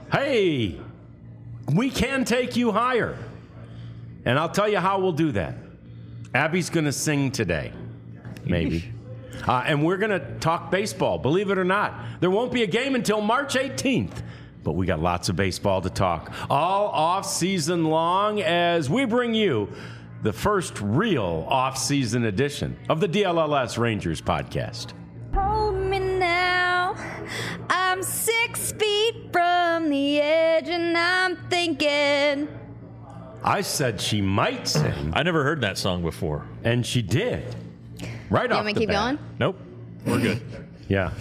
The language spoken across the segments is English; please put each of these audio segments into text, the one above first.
Hey, we can take you higher. And I'll tell you how we'll do that. Abby's going to sing today, maybe. And we're going to talk baseball, believe it or not. There won't be a game until March 18th. But we got lots of baseball to talk all off-season long as we bring you the first real off-season edition of the DLLS Rangers podcast. Hold me now, I'm 6 feet from the edge and I'm thinking. I said she might sing. I never heard that song before. And she did. Right off the bat. You want me to keep going? Nope. We're good. Yeah.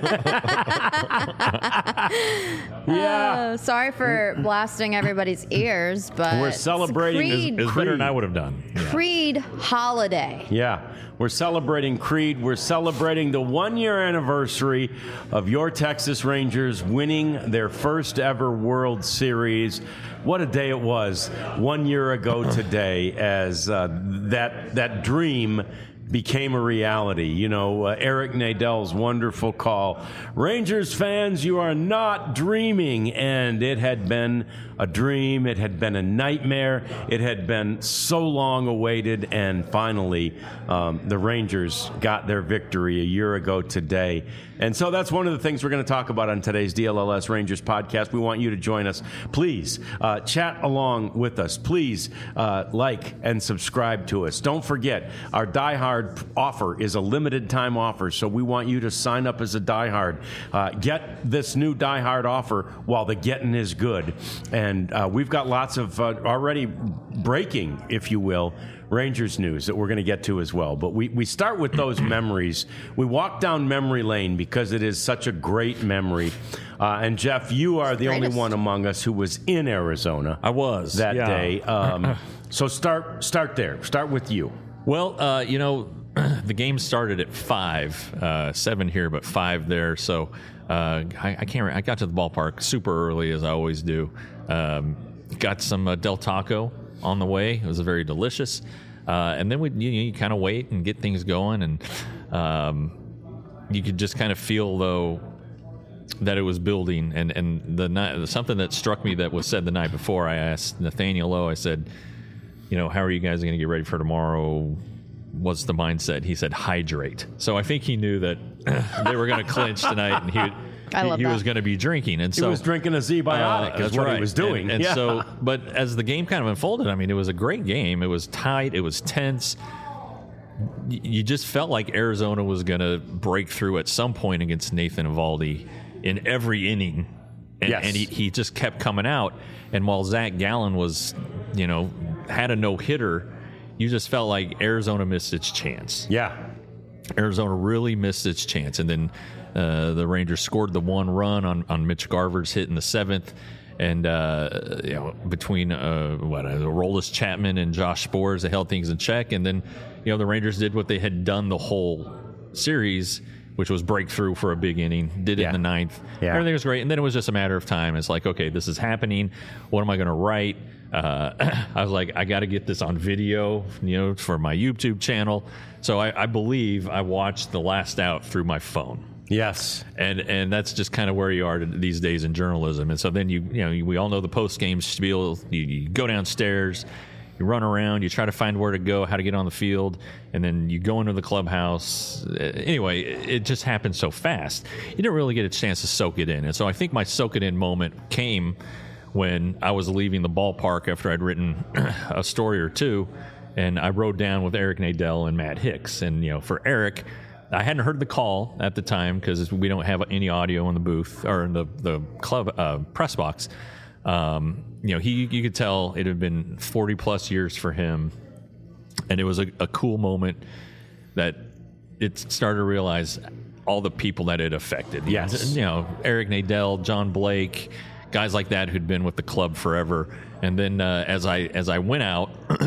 Sorry for blasting everybody's ears, but We're celebrating It's better than I would have done. Yeah. Creed holiday. Yeah, we're celebrating Creed. We're celebrating the 1-year anniversary of your Texas Rangers winning their first ever World Series. What a day it was 1 year ago today as that dream became a reality. You know, Eric Nadell's wonderful call. Rangers fans, you are not dreaming. And it had been a dream. It had been a nightmare. It had been so long awaited. And finally, the Rangers got their victory a year ago today. And so that's one of the things we're going to talk about on today's DLLS Rangers podcast. We want you to join us. Please chat along with us. Please like and subscribe to us. Don't forget, our Die Hard offer is a limited time offer, so we want you to sign up as a Die Hard. Get this new Die Hard offer while the getting is good. And we've got lots of already breaking, if you will, Rangers news that we're going to get to as well. But we start with those memories. We walk down memory lane because it is such a great memory. And Jeff, you are the only one among us who was in Arizona. I was that day. So start there. Start with you. Well, the game started at 5, 7 here, but 5 there. So I got to the ballpark super early, as I always do. Got some Del Taco on the way. It was very delicious. And then you kind of wait and get things going, and you could just kind of feel though that it was building. And something that struck me that was said the night before. I asked Nathaniel Lowe. I said, how are you guys going to get ready for tomorrow? What's the mindset? He said, hydrate. So I think he knew that they were going to clinch tonight, and he was going to be drinking. And so he was drinking a Z-Biotic. That's what he was doing. And so, but as the game kind of unfolded, I mean, it was a great game. It was tight. It was tense. You just felt like Arizona was going to break through at some point against Nathan Eovaldi in every inning. And he just kept coming out. And while Zach Gallen was, had a no-hitter, you just felt like Arizona missed its chance. Yeah. Arizona really missed its chance. And then the Rangers scored the 1 run on Mitch Garver's hit in the 7th. And, between Aroldis Chapman and Josh Sborz, they held things in check. And then, the Rangers did what they had done the whole series, which was break through for a big inning. Did it in the 9th. Yeah. Everything was great. And then it was just a matter of time. It's like, okay, this is happening. What am I going to write? I was like, I got to get this on video, for my YouTube channel. So I believe I watched the last out through my phone. Yes. And that's just kind of where you are these days in journalism. And so then we all know the post-game spiel. You go downstairs, you run around, you try to find where to go, how to get on the field, and then you go into the clubhouse. Anyway, it just happened so fast. You didn't really get a chance to soak it in. And so I think my soak it in moment came when I was leaving the ballpark after I'd written a story or two, and I rode down with Eric Nadell and Matt Hicks. And, for Eric, I hadn't heard the call at the time because we don't have any audio in the booth or in the club press box. You could tell it had been 40 plus years for him, and it was a cool moment that it started to realize all the people that it affected. Yes. Eric Nadell, John Blake, guys like that who'd been with the club forever. And then as I went out,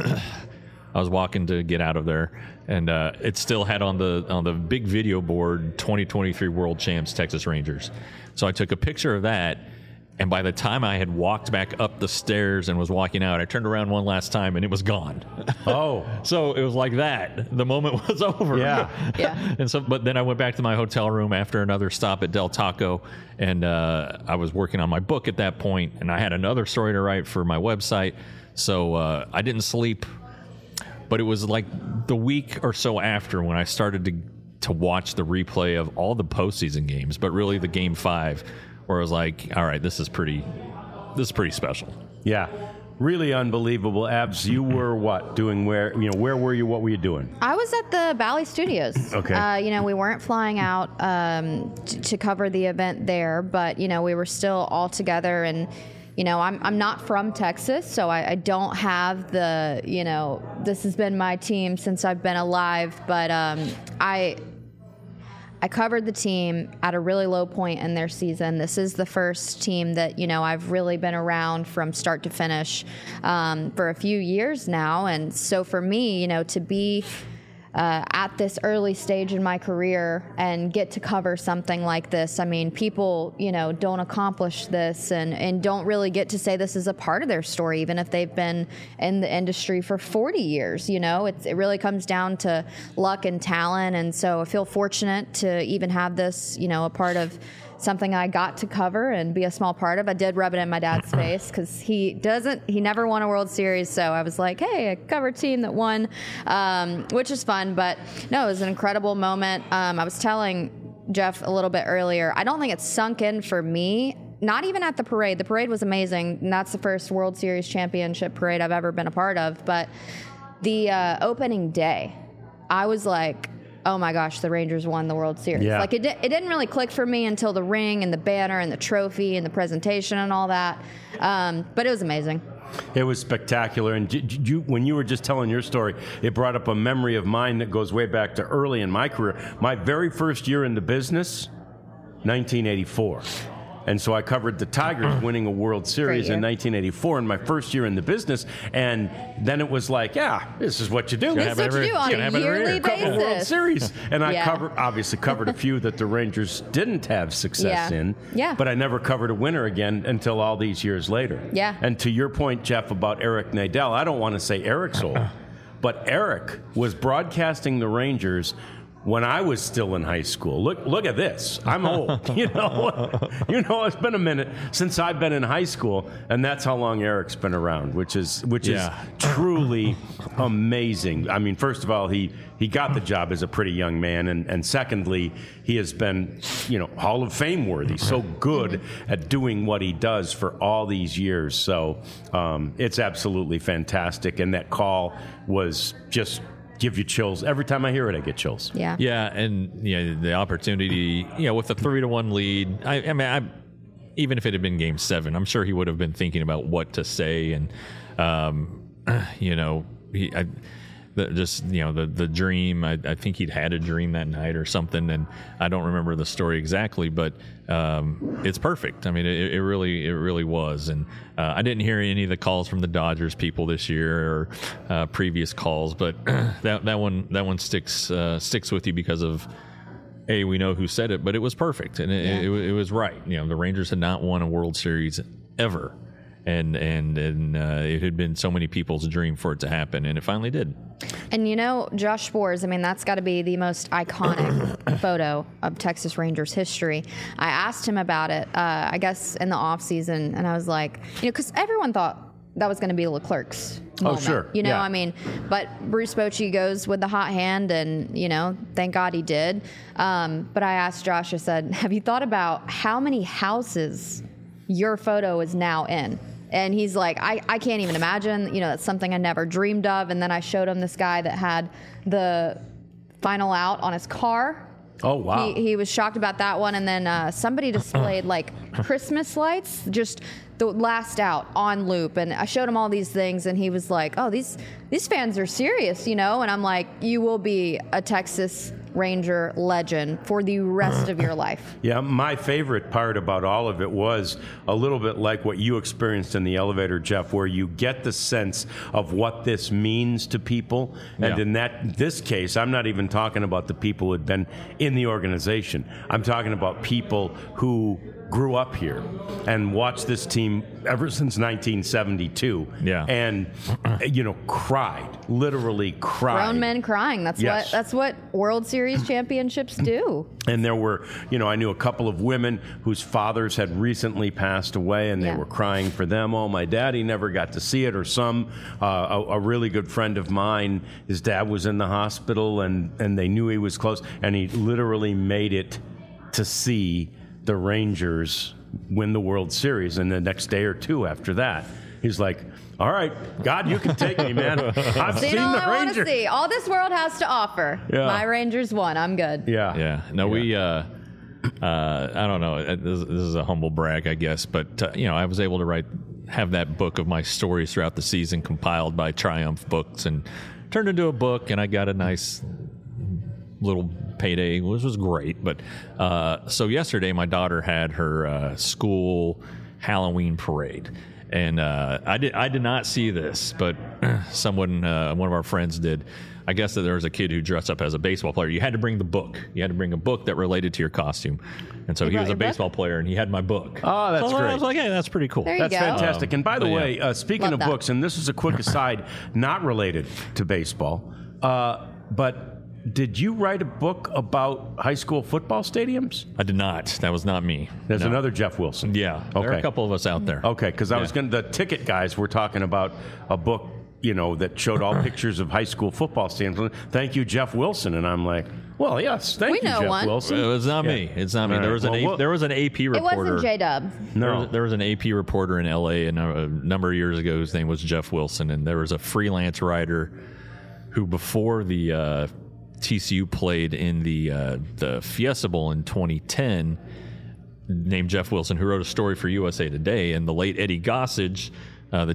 I was walking to get out of there, and it still had on the big video board 2023 World Champs Texas Rangers. So I took a picture of that, And by the time I had walked back up the stairs and was walking out, I turned around one last time and it was gone. Oh. So it was like that. The moment was over. Yeah. Yeah. And so, but then I went back to my hotel room after another stop at Del Taco, and I was working on my book at that point, and I had another story to write for my website. So I didn't sleep, but it was like the week or so after when I started to watch the replay of all the postseason games, but really the Game 5, where I was like, all right, this is pretty special. Yeah. Really unbelievable. Abs, you were what? Doing where were you? What were you doing? I was at the Bally Studios. Okay. We weren't flying out to cover the event there, but, we were still all together. And, I'm not from Texas, so I don't have the, this has been my team since I've been alive. But I covered the team at a really low point in their season. This is the first team that, I've really been around from start to finish for a few years now. And so for me, to be at this early stage in my career and get to cover something like this, I mean, people, don't accomplish this and don't really get to say this is a part of their story, even if they've been in the industry for 40 years. It really comes down to luck and talent. And so I feel fortunate to even have this, a part of something I got to cover and be a small part of. I did rub it in my dad's face because he never won a World Series. So I was like, hey, I covered a team that won, which is fun. But no, it was an incredible moment. I was telling Jeff a little bit earlier, I don't think it's sunk in for me, not even at the parade. The parade was amazing. And that's the first World Series championship parade I've ever been a part of. But the opening day, I was like, oh my gosh, the Rangers won the World Series. Yeah. Like it didn't really click for me until the ring and the banner and the trophy and the presentation and all that. But it was amazing. It was spectacular. And when you were just telling your story, it brought up a memory of mine that goes way back to early in my career. My very first year in the business, 1984. And so I covered the Tigers winning a World Series in 1984 in my first year in the business. And then it was like, yeah, this is what you do. This is what you do on a yearly Couple World basis. Series. And I Yeah. obviously covered a few that the Rangers didn't have success Yeah. in. Yeah. But I never covered a winner again until all these years later. Yeah. And to your point, Jeff, about Eric Nadel, I don't want to say Eric's old, but Eric was broadcasting the Rangers when I was still in high school. Look at this. I'm old. It's been a minute since I've been in high school, and that's how long Eric's been around, which is truly amazing. I mean, first of all, he got the job as a pretty young man, and secondly, he has been, Hall of Fame worthy. So good at doing what he does for all these years. So it's absolutely fantastic, and that call was just give you chills. Every time I hear it, I get chills. Yeah. Yeah, and the opportunity, with a 3-1 lead. I mean, even if it had been Game 7, I'm sure he would have been thinking about what to say, and the dream. I think he'd had a dream that night or something, and I don't remember the story exactly, but it's perfect. I mean, it really was. And I didn't hear any of the calls from the Dodgers people this year or previous calls, but that one sticks with you because of we know who said it, but it was perfect, and it was right. The Rangers had not won a World Series ever. And it had been so many people's dream for it to happen, and it finally did. And Josh Sborz, I mean, that's got to be the most iconic photo of Texas Rangers history. I asked him about it, I guess, in the off season, and I was like, because everyone thought that was going to be Leclerc's moment. Oh, sure. Yeah. I mean, but Bruce Bochy goes with the hot hand, and, thank God he did. But I asked Josh, I said, have you thought about how many houses your photo is now in? And he's like, I can't even imagine. That's something I never dreamed of. And then I showed him this guy that had the final out on his car. Oh, wow. He was shocked about that one. And then somebody displayed like Christmas lights, just the last out on loop. And I showed him all these things, and he was like, oh, these fans are serious, And I'm like, you will be a Texas Ranger legend for the rest of your life. Yeah, my favorite part about all of it was a little bit like what you experienced in the elevator, Jeff, where you get the sense of what this means to people. And in this case, I'm not even talking about the people who had been in the organization. I'm talking about people who grew up here and watched this team ever since 1972. Yeah. And, cried, literally cried. Grown men crying. That's what World Series championships do. And there were, I knew a couple of women whose fathers had recently passed away, and they were crying for them. Oh, my daddy never got to see it. Or a really good friend of mine, his dad was in the hospital, and they knew he was close, and he literally made it to see the Rangers win the World Series. And the next day or two after that, he's like, all right, God, you can take me, man. I've seen all the I want to Rangers. see. All this world has to offer. Yeah. My Rangers won. I'm good. Yeah. Yeah. No, we, I don't know. This is a humble brag, I guess. But, I was able to have that book of my stories throughout the season compiled by Triumph Books and turned into a book. And I got a nice little payday, which was great. But so yesterday, my daughter had her school Halloween parade. And I did not see this, but someone, one of our friends did. I guess that there was a kid who dressed up as a baseball player. You had to bring the book. You had to bring a book that related to your costume. And so he was a baseball player, and he had my book. Oh, that's great. I was like, hey, that's pretty cool. There you That's go. fantastic. And by the way, speaking Love of that. books, and this is a quick aside, not related to baseball, but did you write a book about high school football stadiums? I did not. That was not me. There's No. another Jeff Wilson. Yeah. There are a couple of us out there. Okay, because I was going to, the ticket guys were talking about a book, that showed all pictures of high school football stadiums. Thank you, Jeff Wilson. And I'm like, well, yes, thank We you, know Jeff one. Wilson. It was not me. It's not me. All There right. was an there was an AP It reporter. wasn't J-Dub. No. There was an AP reporter in LA a number of years ago whose name was Jeff Wilson, and there was a freelance writer who, before the TCU played in the Fiesta Bowl in 2010, named Jeff Wilson, who wrote a story for USA Today. And the late Eddie Gossage, the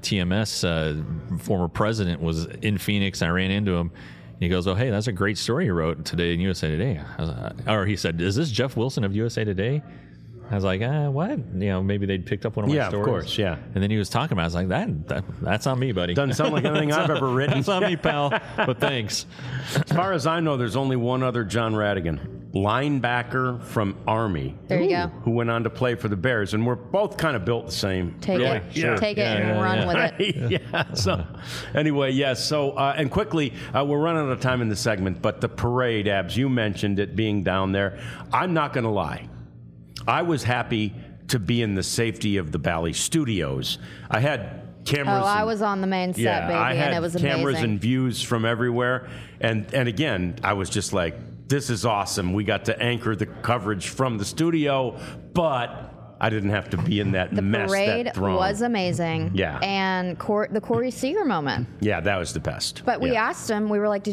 TMS former president, was in Phoenix. I ran into him. He goes, oh, hey, that's a great story you wrote today in USA Today. Or he said, is this Jeff Wilson of USA Today? I was like, what? Maybe they'd picked up one of my stories. Yeah, of course, yeah. And then he was talking about it. I was like, that's on me, buddy. Doesn't sound like anything I've ever written. That's on me, pal. But thanks. As far as I know, there's only one other John Radigan, linebacker from Army. There you go. Who went on to play for the Bears. And we're both kind of built the same. Take really. it. Yeah. Take it and run with it. Yeah. So, anyway, yes. So, and quickly, we're running out of time in the segment, but the parade, Abs, you mentioned it being down there. I'm not going to lie. I was happy to be in the safety of the Bally Studios. I had cameras. Oh, I was on the main set, baby, I had and it was cameras amazing. and views from everywhere. And again, I was just like, this is awesome. We got to anchor the coverage from the studio, but I didn't have to be in that The mess, parade that throng. was amazing. Yeah. And the Corey Seager moment. Yeah, that was the best. But we Yeah. asked him, we were like,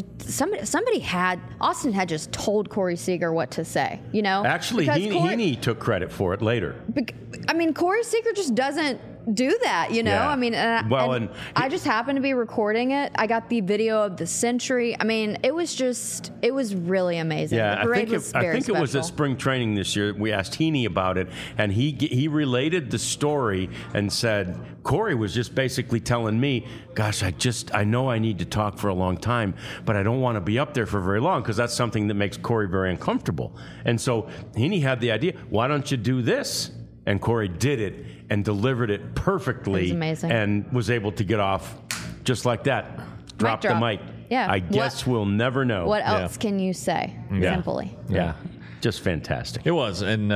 Austin had just told Corey Seager what to say, Actually, Because Heaney took credit for it later. Corey Seager just doesn't do that, Yeah. and I just happened to be recording it. I got the video of the century. It was really amazing. Yeah, the parade was very I think it was at special. spring training this year. We asked Heaney about it, and he related the story and said, Corey was just basically telling me, gosh, I know I need to talk for a long time, but I don't want to be up there for very long because that's something that makes Corey very uncomfortable. And so Heaney had the idea, why don't you do this? And Corey did it and delivered it perfectly. It was amazing. And was able to get off just like that. Drop the drop. mic. Yeah. I guess we'll never know. What else can you say? Yeah. Simply. Yeah. Just fantastic. It was. And,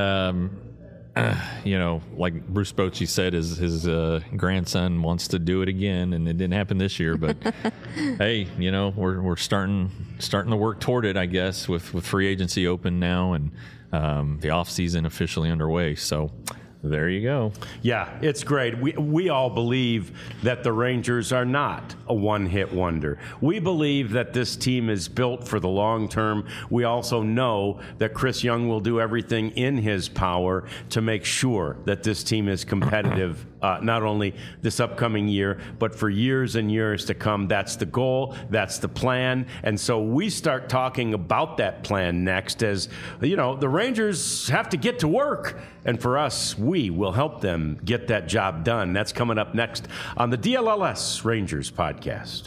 like Bruce Bochy said, his grandson wants to do it again, and it didn't happen this year. But hey, we're starting to work toward it, I guess, with free agency open now and the off season officially underway. So there you go. Yeah, it's great. We all believe that the Rangers are not a one-hit wonder. We believe that this team is built for the long term. We also know that Chris Young will do everything in his power to make sure that this team is competitive not only this upcoming year, but for years and years to come. That's the goal. That's the plan. And so we start talking about that plan next as, the Rangers have to get to work. And for us, we will help them get that job done. That's coming up next on the DLLS Rangers podcast.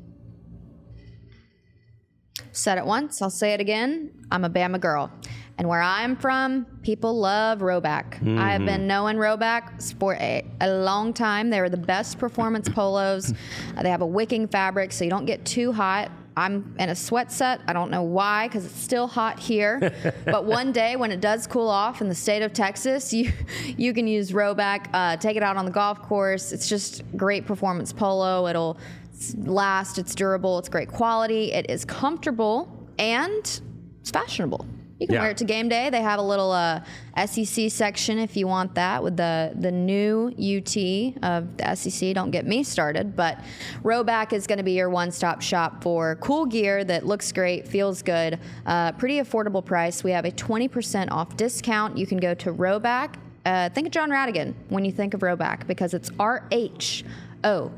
Said it once, I'll say it again. I'm a Bama girl. And where I'm from, people love Roback. I have been knowing Roback for a long time. They're the best performance polos. They have a wicking fabric, so you don't get too hot. I'm in a sweat set. I don't know why, because it's still hot here. But one day when it does cool off in the state of Texas, you can use Roback, take it out on the golf course. It's just great performance polo. It'll last, it's durable, it's great quality, it is comfortable, and it's fashionable. You can wear it to game day. They have a little SEC section if you want that with the new UT of the SEC. Don't get me started, but Roback is going to be your one-stop shop for cool gear that looks great, feels good, pretty affordable price. We have a 20% off discount. You can go to Roback. Think of John Radigan when you think of Roback, because it's RHOBACK,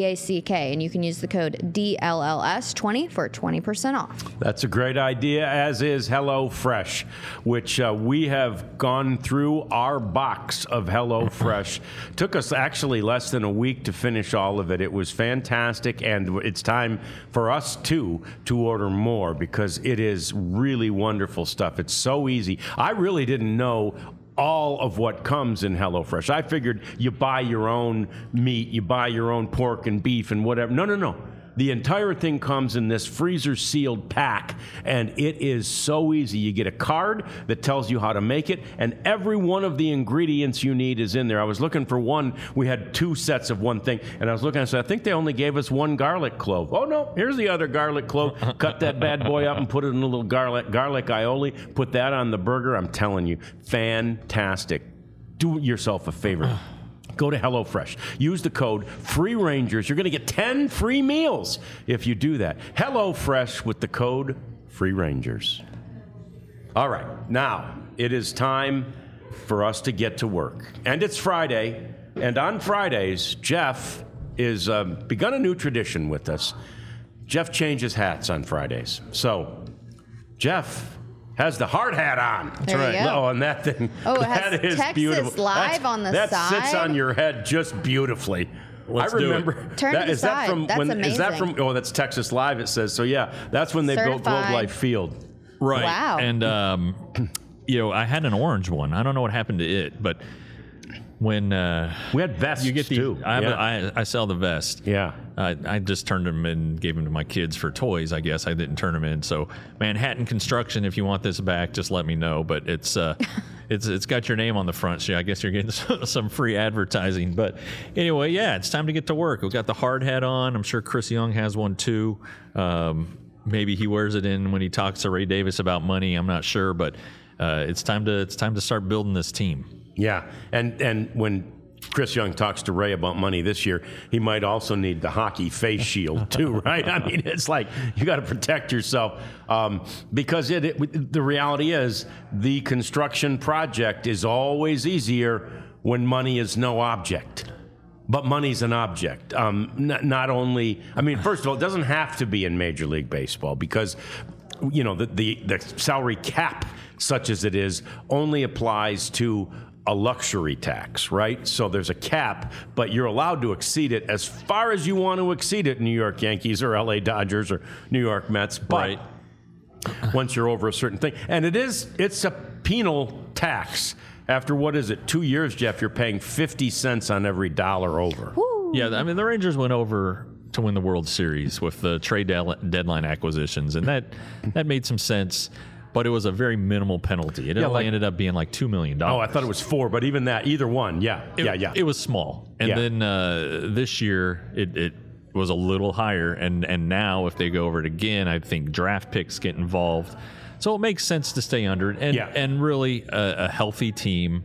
and you can use the code DLLS20 for 20% off. That's a great idea, as is HelloFresh, which we have gone through our box of HelloFresh. Took us actually less than a week to finish all of it. It was fantastic, and it's time for us, too, to order more, because it is really wonderful stuff. It's so easy. I really didn't know all of what comes in HelloFresh. I figured you buy your own meat, you buy your own pork and beef and whatever. No. The entire thing comes in this freezer-sealed pack, and it is so easy. You get a card that tells you how to make it, and every one of the ingredients you need is in there. I was looking for one. We had 2 sets of one thing, and I was looking, I said, I think they only gave us 1 garlic clove. Oh, no, here's the other garlic clove. Cut that bad boy up and put it in a little garlic aioli. Put that on the burger. I'm telling you, fantastic. Do yourself a favor. Go to HelloFresh. Use the code FREERANGERS. You're going to get 10 free meals if you do that. HelloFresh with the code FREERANGERS. All right. Now, it is time for us to get to work. And it's Friday. And on Fridays, Jeff is begun a new tradition with us. Jeff changes hats on Fridays. So, Jeff has the hard hat on. That's right. Oh, and that thing. Oh, it has that is Texas beautiful. Live on the that side. That sits on your head just beautifully. Let's I remember. do it. Turn to the is that side. from That's when? amazing. Is that from? Oh, that's Texas Live. It says so. Yeah, that's when they built Globe Certified. Life Field. Right. Wow. And, I had an orange one. I don't know what happened to it, but when We had vests you get the, too. I sell the vest. Yeah. I just turned them in and gave them to my kids for toys, I guess. I didn't turn them in. So Manhattan Construction, if you want this back, just let me know. But it's got your name on the front, so I guess you're getting some free advertising. But anyway, yeah, it's time to get to work. We've got the hard hat on. I'm sure Chris Young has one too. Maybe he wears it in when he talks to Ray Davis about money. I'm not sure, but it's time to start building this team. Yeah, and when Chris Young talks to Ray about money this year, he might also need the hockey face shield too, right? I mean, it's like you got to protect yourself because the reality is the construction project is always easier when money is no object. But money's an object. Not only, I mean, first of all, it doesn't have to be in Major League Baseball because, the salary cap, such as it is, only applies to a luxury tax, right? So there's a cap, but you're allowed to exceed it as far as you want to exceed it, New York Yankees or LA Dodgers or New York Mets. But Right. once you're over a certain thing, and it's a penal tax. After, 2 years, Jeff, you're paying 50 cents on every dollar over. Woo. Yeah, I mean, the Rangers went over to win the World Series with the trade deadline acquisitions, and that made some sense. But it was a very minimal penalty. It only ended up being like $2 million. Oh, I thought it was 4, but even that, either one, yeah. It was small. And then this year, it was a little higher. And now, if they go over it again, I think draft picks get involved. So it makes sense to stay under it. And really, a healthy team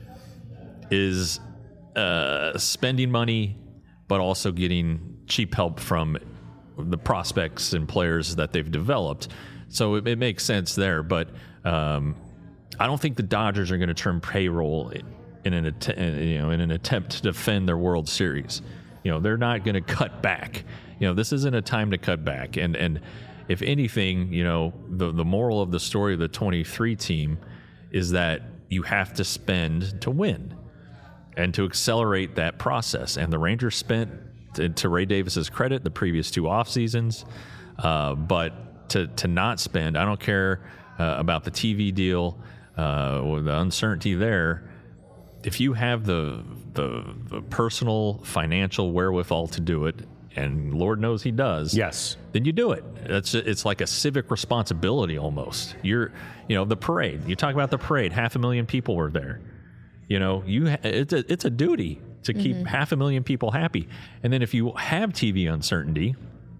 is spending money, but also getting cheap help from the prospects and players that they've developed. So it makes sense there, but I don't think the Dodgers are going to turn payroll in an attempt to defend their World Series. They're not going to cut back. This isn't a time to cut back. And if anything, the moral of the story of the 23 team is that you have to spend to win and to accelerate that process. And the Rangers spent, to Ray Davis's credit, the previous 2 off seasons, but to not spend, I don't care about the TV deal or the uncertainty there. If you have the personal financial wherewithal to do it, and Lord knows he does, yes, then you do it. It's like a civic responsibility almost. The parade. You talk about the parade. 500,000 people were there. It's a duty to keep 500,000 people happy. And then if you have TV uncertainty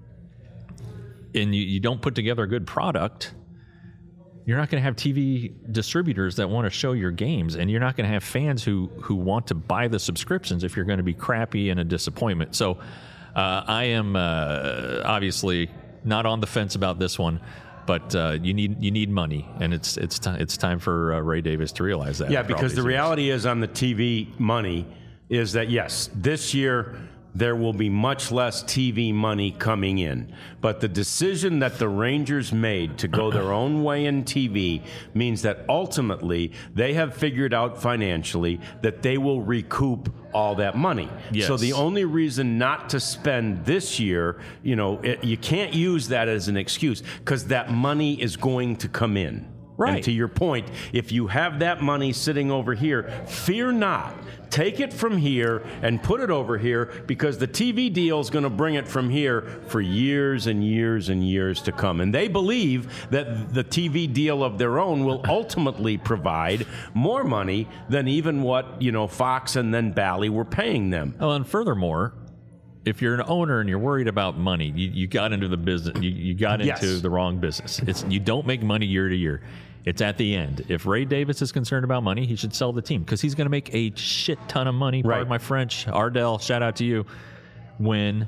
and you don't put together a good product, you're not going to have TV distributors that want to show your games, and you're not going to have fans who want to buy the subscriptions if you're going to be crappy and a disappointment. So I am obviously not on the fence about this one, but you need money, and it's time for Ray Davis to realize that. Yeah, because the reality is on the TV money is that, yes, this year there will be much less TV money coming in. But the decision that the Rangers made to go their own way in TV means that ultimately they have figured out financially that they will recoup all that money. Yes. So the only reason not to spend this year, you can't use that as an excuse, because that money is going to come in. Right. And to your point, if you have that money sitting over here, fear not. Take it from here and put it over here, because the TV deal is going to bring it from here for years and years and years to come. And they believe that the TV deal of their own will ultimately provide more money than even what, Fox and then Bally were paying them. Oh, and furthermore, if you're an owner and you're worried about money, you got into the business. You got into the wrong business. You don't make money year to year. It's at the end. If Ray Davis is concerned about money, he should sell the team, because he's going to make a shit ton of money. Pardon my French. Ardell, shout out to you. When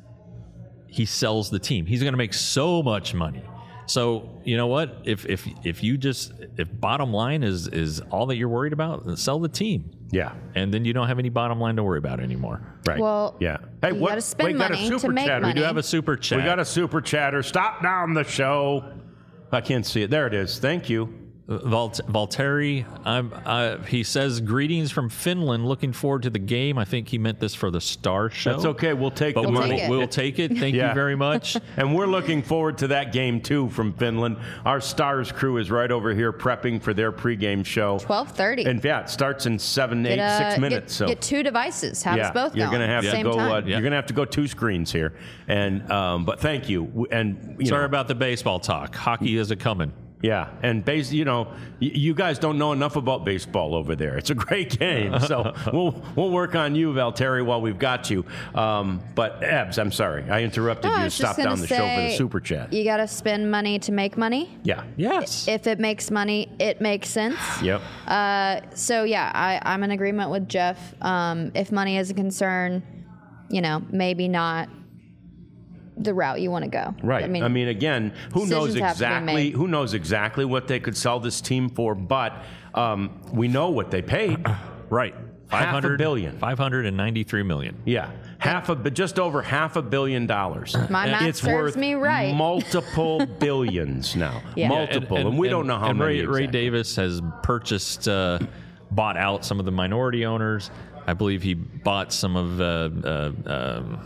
he sells the team, he's going to make so much money. So you know what? If bottom line is all that you're worried about, then sell the team. Yeah. And then you don't have any bottom line to worry about anymore. Right. Well, yeah. Hey, you got to spend money to make money. We do have a super chat. We got a super chatter. Stop down the show. I can't see it. There it is. Thank you. Valtteri, he says, greetings from Finland. Looking forward to the game. I think he meant this for the Star Show. That's okay. We'll take the money. We'll take it. Thank you very much. And we're looking forward to that game, too, from Finland. Our Stars crew is right over here prepping for their pregame show. 12:30. And it starts in 6 minutes. Get 2 devices. Have us both you're going. Gonna have at the to same go. time. You're going to have to go 2 screens here. And but thank you. And sorry about the baseball talk. Hockey is a coming. Yeah, and you guys don't know enough about baseball over there. It's a great game, so we'll work on you, Valtteri, while we've got you. But Ebbs, I'm sorry, I interrupted you to stop down the show for the super chat. You got to spend money to make money. Yeah. Yes. If it makes money, it makes sense. Yep. So yeah, I'm in agreement with Jeff. If money is a concern, maybe not the route you want to go. Right. I mean, again, who knows exactly what they could sell this team for, but we know what they paid. Right. $500 billion. $593 million. Yeah. Just over $500 million. My math it's serves worth me right. Multiple billions now. Yeah. Multiple. And we don't know how many. And Ray Davis has purchased, bought out some of the minority owners. I believe he bought some of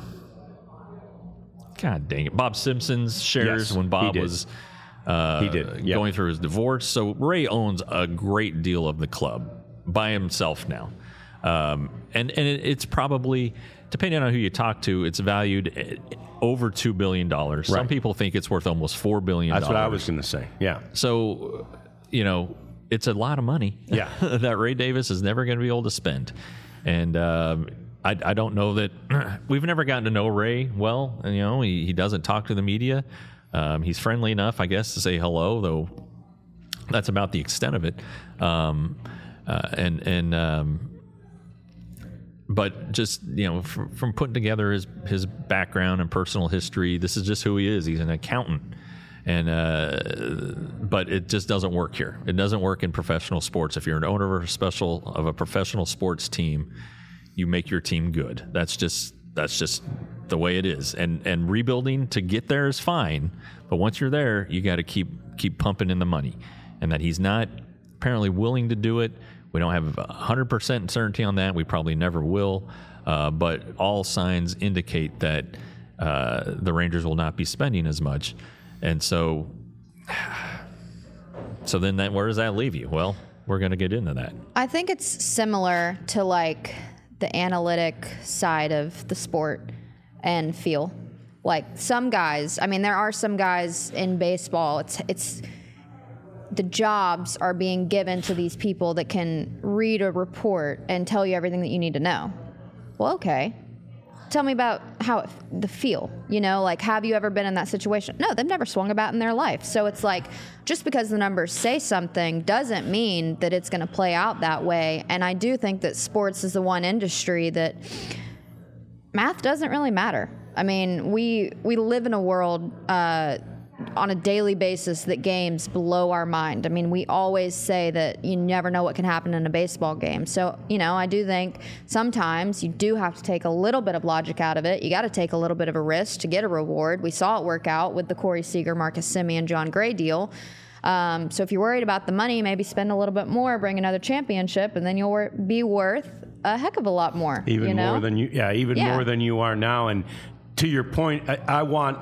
God dang it, Bob Simpson's shares when Bob was going through his divorce. So Ray owns a great deal of the club by himself now. And it's probably, depending on who you talk to, it's valued at over $2 billion. Right. Some people think it's worth almost $4 billion. That's what I was going to say. Yeah. So, it's a lot of money that Ray Davis is never going to be able to spend. And I don't know that we've never gotten to know Ray well. And, he doesn't talk to the media. He's friendly enough, I guess, to say hello, though that's about the extent of it. But just, from putting together his background and personal history, this is just who he is. He's an accountant. But it just doesn't work here. It doesn't work in professional sports. If you're an owner of a professional sports team, you make your team good. That's just the way it is. And rebuilding to get there is fine, but once you're there, you got to keep pumping in the money. And that he's not apparently willing to do it. We don't have 100% certainty on that. We probably never will. But all signs indicate that the Rangers will not be spending as much. And so then where does that leave you? Well, we're going to get into that. I think it's similar to like the analytic side of the sport and feel. Like some guys, I mean, there are some guys in baseball, it's the jobs are being given to these people that can read a report and tell you everything that you need to know. Well, okay. Tell me about the feel, like, have you ever been in that situation? No, they've never swung a bat in their life. So it's like, just because the numbers say something doesn't mean that it's going to play out that way. And I do think that sports is the one industry that math doesn't really matter. I mean, we live in a world on a daily basis that games blow our mind. I mean, we always say that you never know what can happen in a baseball game. So, I do think sometimes you do have to take a little bit of logic out of it. You got to take a little bit of a risk to get a reward. We saw it work out with the Corey Seager, Marcus Semien, John Gray deal. So if you're worried about the money, maybe spend a little bit more, bring another championship, and then you'll be worth a heck of a lot more. Even more than more than you are now. And to your point, I want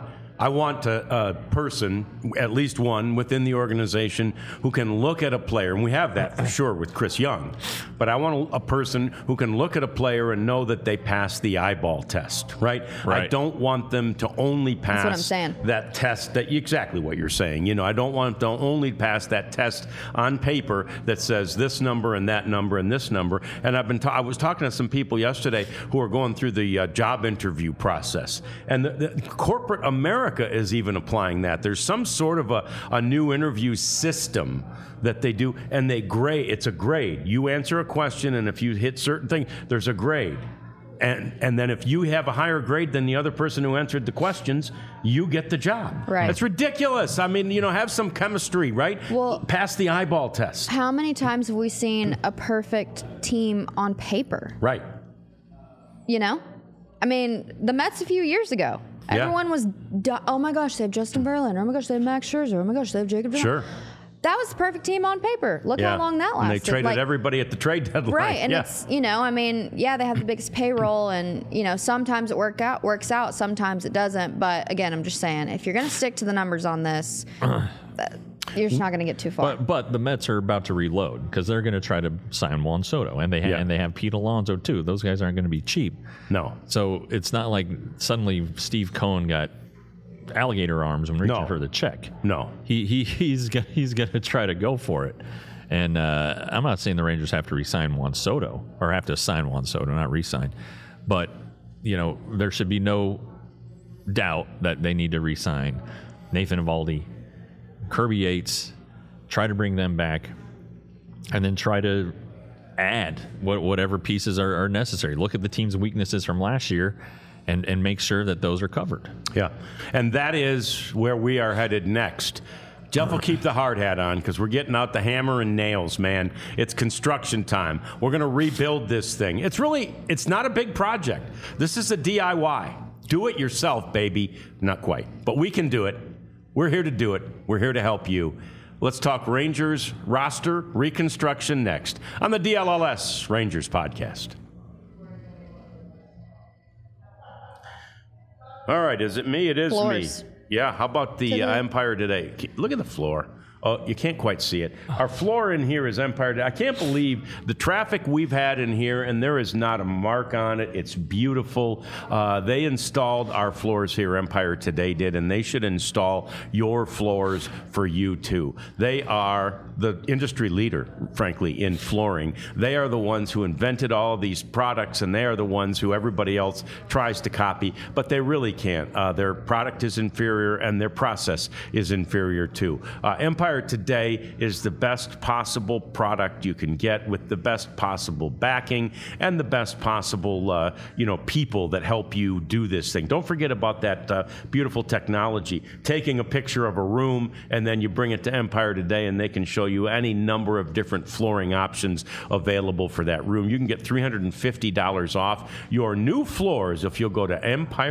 a person, at least one within the organization, who can look at a player, and we have that for sure with Chris Young, but I want a person who can look at a player and know that they passed the eyeball test, right? I don't want them to only pass that test, exactly what you're saying. I don't want them to only pass that test on paper that says this number and that number and this number. And I was talking to some people yesterday who are going through the job interview process, and the corporate America is even applying that. There's some sort of a new interview system that they do, and it's a grade. You answer a question, and if you hit certain things, there's a grade. And then if you have a higher grade than the other person who answered the questions, you get the job. Right. That's ridiculous. I mean, have some chemistry, right? Well, pass the eyeball test. How many times have we seen a perfect team on paper? Right. I mean, the Mets a few years ago. Everyone was, oh my gosh, they have Justin Verlander. Oh my gosh, they have Max Scherzer. Oh my gosh, they have Jacob DeGrom. Sure. That was the perfect team on paper. Look how long that lasted. And they traded everybody at the trade deadline. Right, and it's, they have the biggest payroll, and, sometimes it works out, sometimes it doesn't. But again, I'm just saying, if you're going to stick to the numbers on this, you're just not going to get too far. But the Mets are about to reload because they're going to try to sign Juan Soto, and they have Pete Alonso too. Those guys aren't going to be cheap. No. So it's not like suddenly Steve Cohen got alligator arms when reaching for the check. No. He's going to try to go for it. And I'm not saying the Rangers have to re-sign Juan Soto or have to sign Juan Soto, not re-sign. But, there should be no doubt that they need to re-sign Nathan Eovaldi, Kirby Yates, try to bring them back, and then try to add whatever pieces are necessary. Look at the team's weaknesses from last year and make sure that those are covered. Yeah, and that is where we are headed next. Jeff will keep the hard hat on because we're getting out the hammer and nails, man. It's construction time. We're going to rebuild this thing. It's not a big project. This is a DIY. Do it yourself, baby. Not quite, but we can do it. We're here to do it. We're here to help you. Let's talk Rangers roster reconstruction next on the DLLS Rangers podcast. All right, is it me? It is Floors. me. Yeah, how about the Empire Today? Look at the floor. Oh, you can't quite see it. Our floor in here is Empire Today. I can't believe the traffic we've had in here, and there is not a mark on it. It's beautiful. They installed our floors here, Empire Today did, and they should install your floors for you too. They are the industry leader, frankly, in flooring. They are the ones who invented all of these products, and they are the ones who everybody else tries to copy, but they really can't. Their product is inferior, and their process is inferior too. Empire Empire Today is the best possible product you can get with the best possible backing and the best possible, people that help you do this thing. Don't forget about that beautiful technology. Taking a picture of a room and then you bring it to Empire Today and they can show you any number of different flooring options available for that room. You can get $350 off your new floors if you'll go to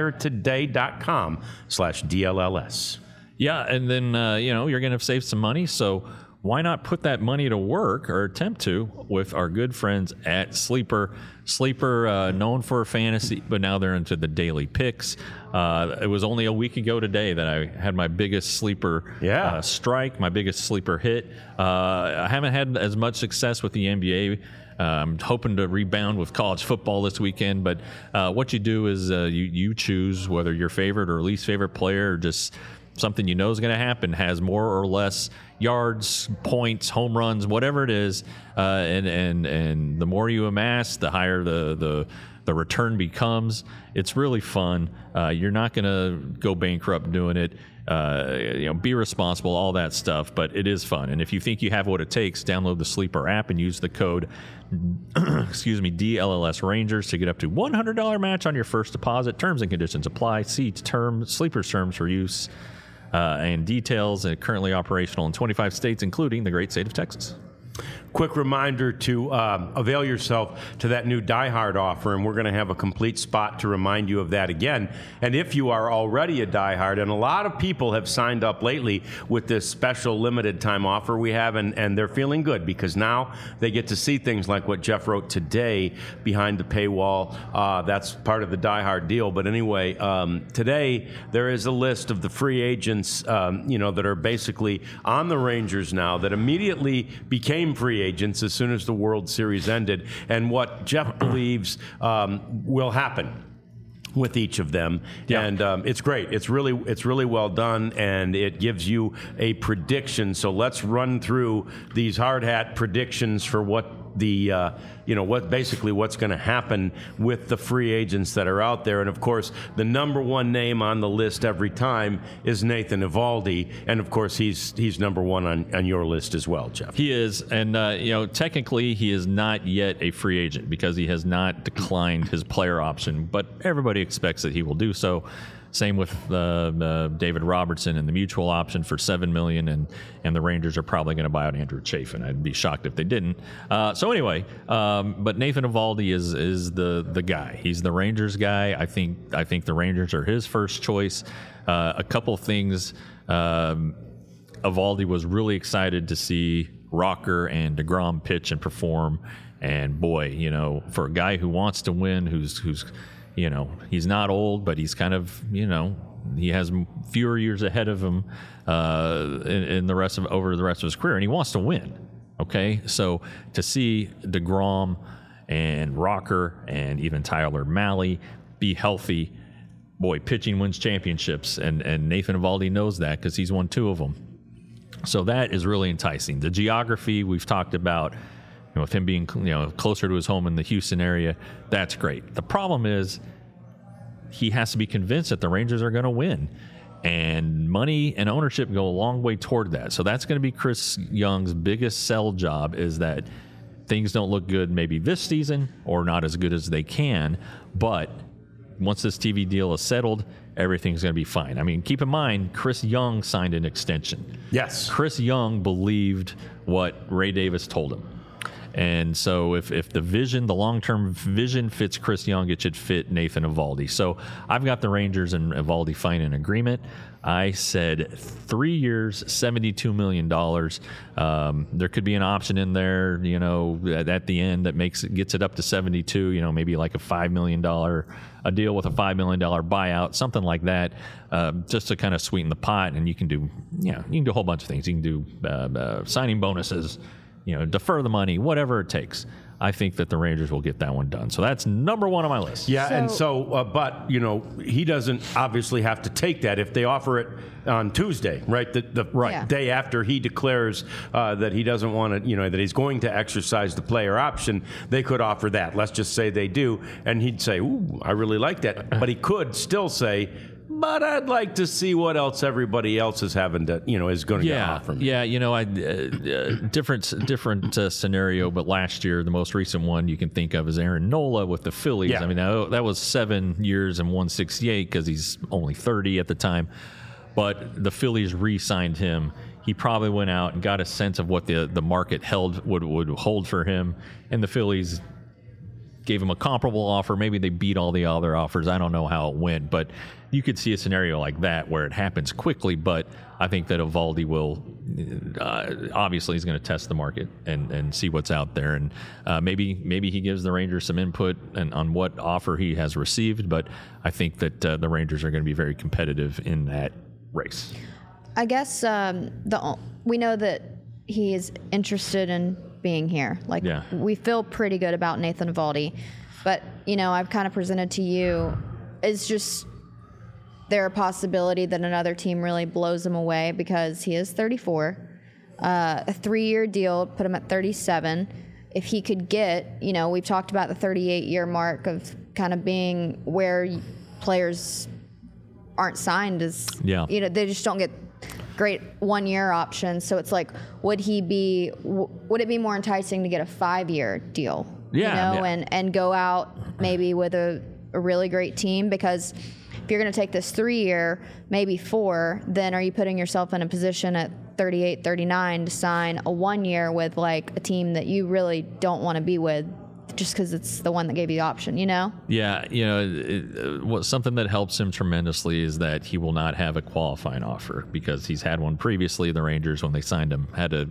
empiretoday.com/DLLS. Yeah, and then, you're going to save some money, so why not put that money to work, or attempt to, with our good friends at Sleeper. Sleeper, known for fantasy, but now they're into the daily picks. It was only a week ago today that I had my biggest sleeper strike, my biggest sleeper hit. I haven't had as much success with the NBA. I'm hoping to rebound with college football this weekend, but what you do is you choose whether your favorite or least favorite player, or just something you know is going to happen, has more or less yards, points, home runs, whatever it is, and the more you amass, the higher the return becomes. It's really fun. You're not going to go bankrupt doing it. Be responsible, all that stuff, but it is fun. And if you think you have what it takes, download the Sleeper app and use the code DLLS Rangers to get up to $100 match on your first deposit. Terms and conditions apply. See Sleeper's terms for use and details. And currently operational in 25 states, including the great state of Texas. Quick reminder to avail yourself to that new Die Hard offer, and we're going to have a complete spot to remind you of that again. And if you are already a Die Hard, and a lot of people have signed up lately with this special limited time offer we have, and they're feeling good because now they get to see things like what Jeff wrote today behind the paywall. That's part of the Die Hard deal. But anyway, today there is a list of the free agents, that are basically on the Rangers now that immediately became free agents as soon as the World Series ended, and what Jeff believes will happen with each of them. Yeah. And it's great. It's really well done, and it gives you a prediction. So let's run through these hard hat predictions for what the what's going to happen with the free agents that are out there. And of course, the number one name on the list every time is Nathan Eovaldi, and of course he's number one on your list as well, Jeff. He is, and technically he is not yet a free agent because he has not declined his player option, but everybody expects that he will do so. Same with David Robertson and the mutual option for $7 million, and the Rangers are probably going to buy out Andrew Chafin. I'd be shocked if they didn't. So anyway, but Nathan Eovaldi is the guy. He's the Rangers guy. I think the Rangers are his first choice. A couple of things. Eovaldi was really excited to see Rocker and DeGrom pitch and perform. And boy, for a guy who wants to win, who's he's not old, but he's kind of, he has fewer years ahead of him over the rest of his career, and he wants to win. Okay, so to see DeGrom and Rocker and even Tyler Mahle be healthy, boy, pitching wins championships, and Nathan Eovaldi knows that because he's won 2 of them. So that is really enticing. The geography we've talked about, with him being closer to his home in the Houston area, that's great. The problem is he has to be convinced that the Rangers are going to win, and money and ownership go a long way toward that. So that's going to be Chris Young's biggest sell job, is that things don't look good maybe this season, or not as good as they can, but once this TV deal is settled, everything's going to be fine. I mean, keep in mind, Chris Young signed an extension. Yes. Chris Young believed what Ray Davis told him. And so if the long-term vision fits Chris Young, it should fit Nathan Eovaldi. So I've got the Rangers and Eovaldi finding an agreement. I said 3 years, $72 million. There could be an option in there, at the end that gets it up to 72, maybe like a $5 million, a deal with a $5 million buyout, something like that, just to kind of sweeten the pot. And you can do a whole bunch of things. You can do signing bonuses, defer the money, whatever it takes. I think that the Rangers will get that one done. So that's number one on my list. Yeah, but he doesn't obviously have to take that if they offer it on Tuesday, right? The day after he declares that he doesn't want to, that he's going to exercise the player option, they could offer that. Let's just say they do, and he'd say, "Ooh, I really like that," but he could still say, but I'd like to see what else everybody else is having to, is going to offer me. Yeah, different scenario, but last year, the most recent one you can think of is Aaron Nola with the Phillies. Yeah. I mean, that was 7 years and 168 because he's only 30 at the time. But the Phillies re-signed him. He probably went out and got a sense of what the market would hold for him, and the Phillies gave him a comparable offer. Maybe they beat all the other offers. I don't know how it went, but you could see a scenario like that where it happens quickly. But I think that Eovaldi will obviously he's going to test the market and see what's out there, and maybe he gives the Rangers some input on what offer he has received. But I think that the Rangers are going to be very competitive in that race. I guess we know that he is interested in being here. We feel pretty good about Nathan Eovaldi, but I've kind of presented to you, is just there a possibility that another team really blows him away because he is 34, a 3-year deal, put him at 37. If he could get, we've talked about the 38-year mark of kind of being where players aren't signed they just don't get great 1-year options. So it's like, would it be more enticing to get a 5-year deal? And go out maybe with a really great team? Because if you're going to take this 3-year, maybe 4, then are you putting yourself in a position at 38, 39 to sign a 1-year with like a team that you really don't want to be with just because it's the one that gave you the option, Yeah, something that helps him tremendously is that he will not have a qualifying offer because he's had one previously. The Rangers, when they signed him,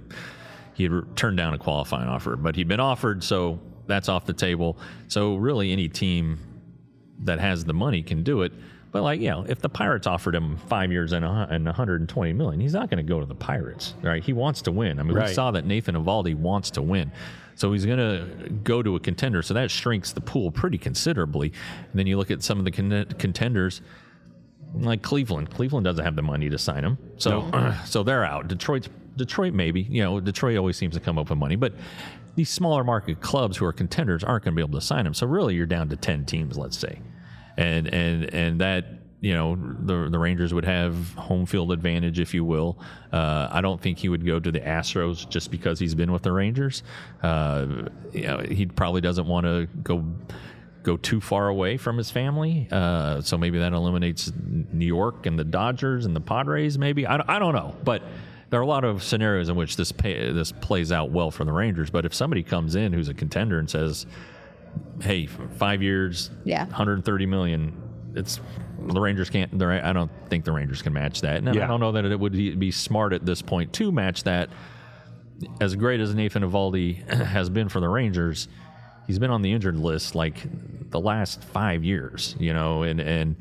he had turned down a qualifying offer, but he'd been offered, so that's off the table. So really any team that has the money can do it. But if the Pirates offered him 5 years and $120 million, he's not going to go to the Pirates, right? He wants to win. I mean, we saw that Nathan Eovaldi wants to win. So he's going to go to a contender. So that shrinks the pool pretty considerably. And then you look at some of the contenders like Cleveland. Cleveland doesn't have the money to sign him. So so they're out. Detroit maybe. Detroit always seems to come up with money. But these smaller market clubs who are contenders aren't going to be able to sign him. So really you're down to 10 teams, let's say. And that, the Rangers would have home field advantage, if you will. I don't think he would go to the Astros just because he's been with the Rangers. He probably doesn't want to go too far away from his family. So maybe that eliminates New York and the Dodgers and the Padres. Maybe I don't know, but there are a lot of scenarios in which this plays out well for the Rangers. But if somebody comes in who's a contender and says, hey, 5 years, $130 million. The Rangers can't. I don't think the Rangers can match that, and I don't know that it would be smart at this point to match that. As great as Nathan Eovaldi has been for the Rangers, he's been on the injured list like the last 5 years, and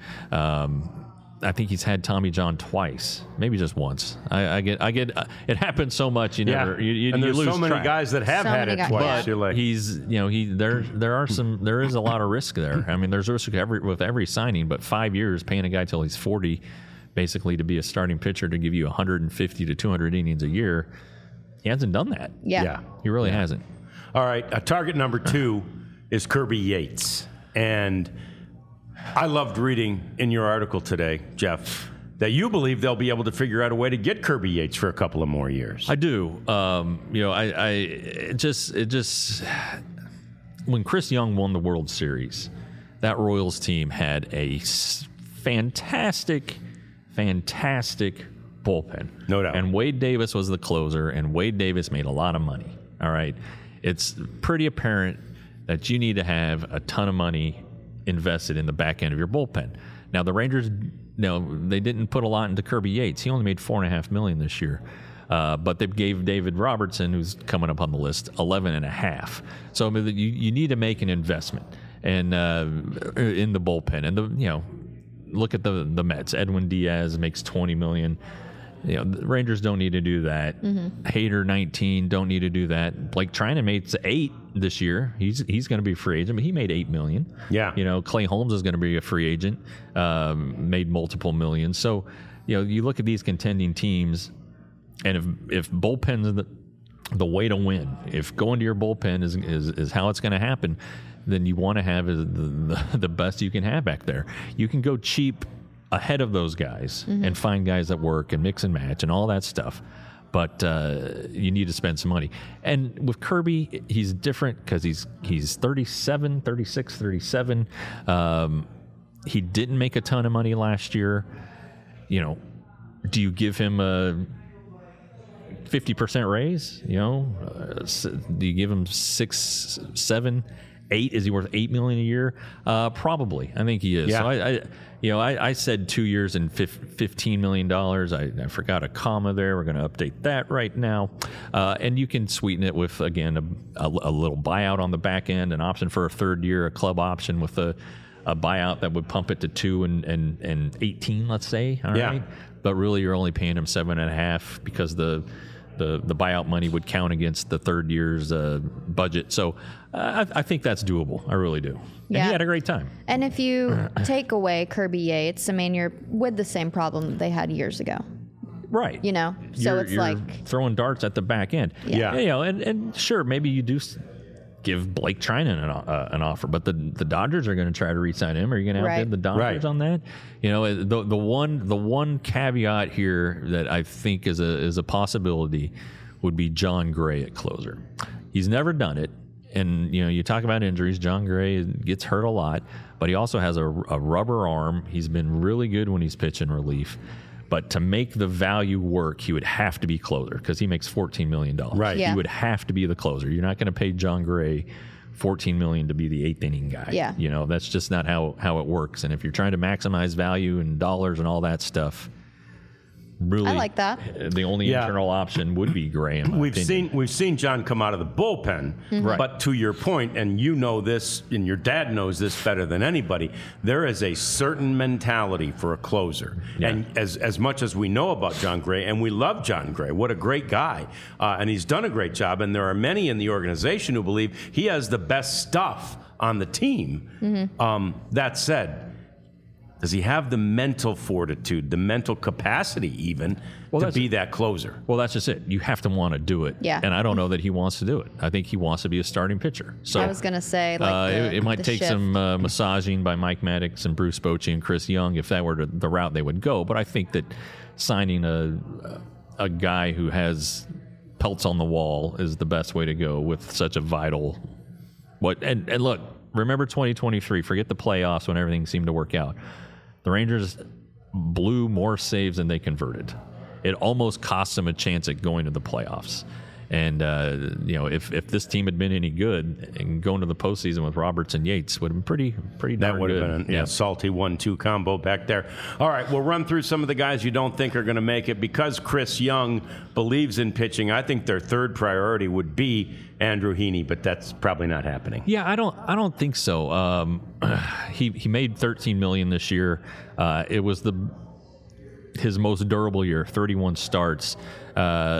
I think he's had Tommy John twice, maybe just once. I get. It happens so much. You never. And there's lose so many track. guys that have had it twice. But he's, there is a lot of risk there. I mean, there's risk with every signing, but 5 years paying a guy till he's 40, basically to be a starting pitcher to give you 150 to 200 innings a year, he hasn't done that. Yeah. He really hasn't. All right, target number 2 is Kirby Yates, and I loved reading in your article today, Jeff, that you believe they'll be able to figure out a way to get Kirby Yates for a couple of more years. I do. It just when Chris Young won the World Series, that Royals team had a fantastic bullpen. No doubt. And Wade Davis was the closer, and Wade Davis made a lot of money. All right. It's pretty apparent that you need to have a ton of money invested in the back end of your bullpen. Now the Rangers, they didn't put a lot into Kirby Yates. He only made $4.5 million this year, but they gave David Robertson, who's coming up on the list, $11.5. So I mean, you need to make an investment in the bullpen. And look at the Mets. Edwin Diaz makes $20 million. The Rangers don't need to do that. Hader 19 don't need to do that. Blake Trinan made $8 this year. He's going to be a free agent, but he made $8 million. Yeah. Clay Holmes is going to be a free agent. Made multiple millions. So you look at these contending teams, and if bullpen's the way to win, if going to your bullpen is how it's going to happen, then you want to have the best you can have back there. You can go cheap ahead of those guys and find guys that work and mix and match and all that stuff. But you need to spend some money. And with Kirby, he's different because he's 37, 36, 37. He didn't make a ton of money last year. You know, do you give him a 50% raise? You know, do you give him 6, 7, 8? Is he worth $8 million a year? Probably. I think he is. Yeah. So I said 2 years and $15 million. I forgot a comma there. We're going to update that right now. And you can sweeten it with, again, a little buyout on the back end, an option for a third year, a club option with a buyout that would pump it to 2 and 18, let's say. All right. But really, you're only paying him 7.5 because the buyout money would count against the third year's budget. So I think that's doable. I really do. And he had a great time. And if you take away Kirby Yates, I mean, you're with the same problem that they had years ago. Right. You know? So you're like throwing darts at the back end. Yeah. You know, and sure, maybe you do give Blake Trinan an offer, but the Dodgers are going to try to re-sign him. Are you going to outbid the Dodgers on that? You know, the one caveat here that I think is a possibility would be John Gray at closer. He's never done it, and you know, you talk about injuries. John Gray gets hurt a lot, but he also has a rubber arm. He's been really good when he's pitching relief. But to make the value work, he would have to be closer because he makes $14 million. Right. Yeah. He would have to be the closer. You're not going to pay John Gray $14 million to be the 8th inning guy. Yeah. You know, that's just not how it works. And if you're trying to maximize value and dollars and all that stuff, really, I like that. The only internal option would be Gray. In my opinion. We've seen John come out of the bullpen, Right. but to your point, and you know this, and your dad knows this better than anybody, there is a certain mentality for a closer. Yeah. And as much as we know about John Gray, and we love John Gray, what a great guy, and he's done a great job, and there are many in the organization who believe he has the best stuff on the team. That said, does he have the mental fortitude, the mental capacity even, to be that closer? Well, that's just it. You have to want to do it. Yeah. And I don't know that he wants to do it. I think he wants to be a starting pitcher. So I was going to say, like, it might take shift. some massaging by Mike Maddox and Bruce Bochy and Chris Young if that were the route they would go. But I think that signing a guy who has pelts on the wall is the best way to go with such a vital. And look, remember 2023. Forget the playoffs when everything seemed to work out. The Rangers blew more saves than they converted. It almost cost them a chance at going to the playoffs. And, you know, if this team had been any good and going to the postseason with Roberts and Yates would have been pretty darn That would good. have been a salty 1-2 combo back there. All right, we'll run through some of the guys you don't think are going to make it. Because Chris Young believes in pitching, I think their third priority would be Andrew Heaney, but that's probably not happening. Yeah, I don't think so. He made $13 million this year. It was his most durable year, 31 starts. You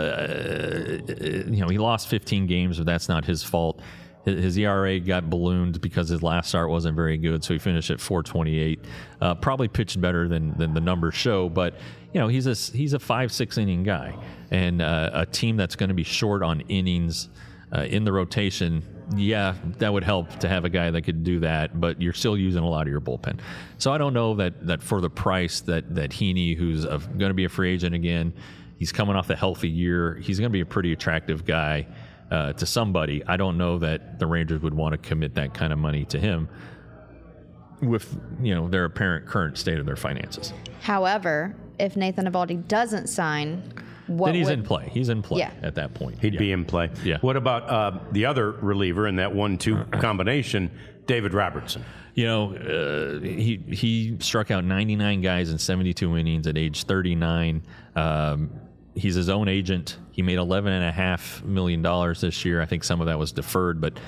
know, he lost 15 games, but that's not his fault. His ERA got ballooned because his last start wasn't very good, so he finished at 4.28. Probably pitched better than the numbers show, but you know, he's a 5-6 inning guy, and a team that's going to be short on innings in the rotation. Yeah, that would help to have a guy that could do that, but you're still using a lot of your bullpen. So I don't know that for the price that Heaney, who's going to be a free agent again, he's coming off the healthy year, he's going to be a pretty attractive guy to somebody. I don't know that the Rangers would want to commit that kind of money to him with, you know, their apparent current state of their finances. However, if Nathan Eovaldi doesn't sign, then he's in play. He's in play Yeah. at that point. He'd be in play. Yeah. What about the other reliever in that 1-2 combination, David Robertson? You know, he struck out 99 guys in 72 innings at age 39. He's his own agent. He made $11.5 million this year. I think some of that was deferred, but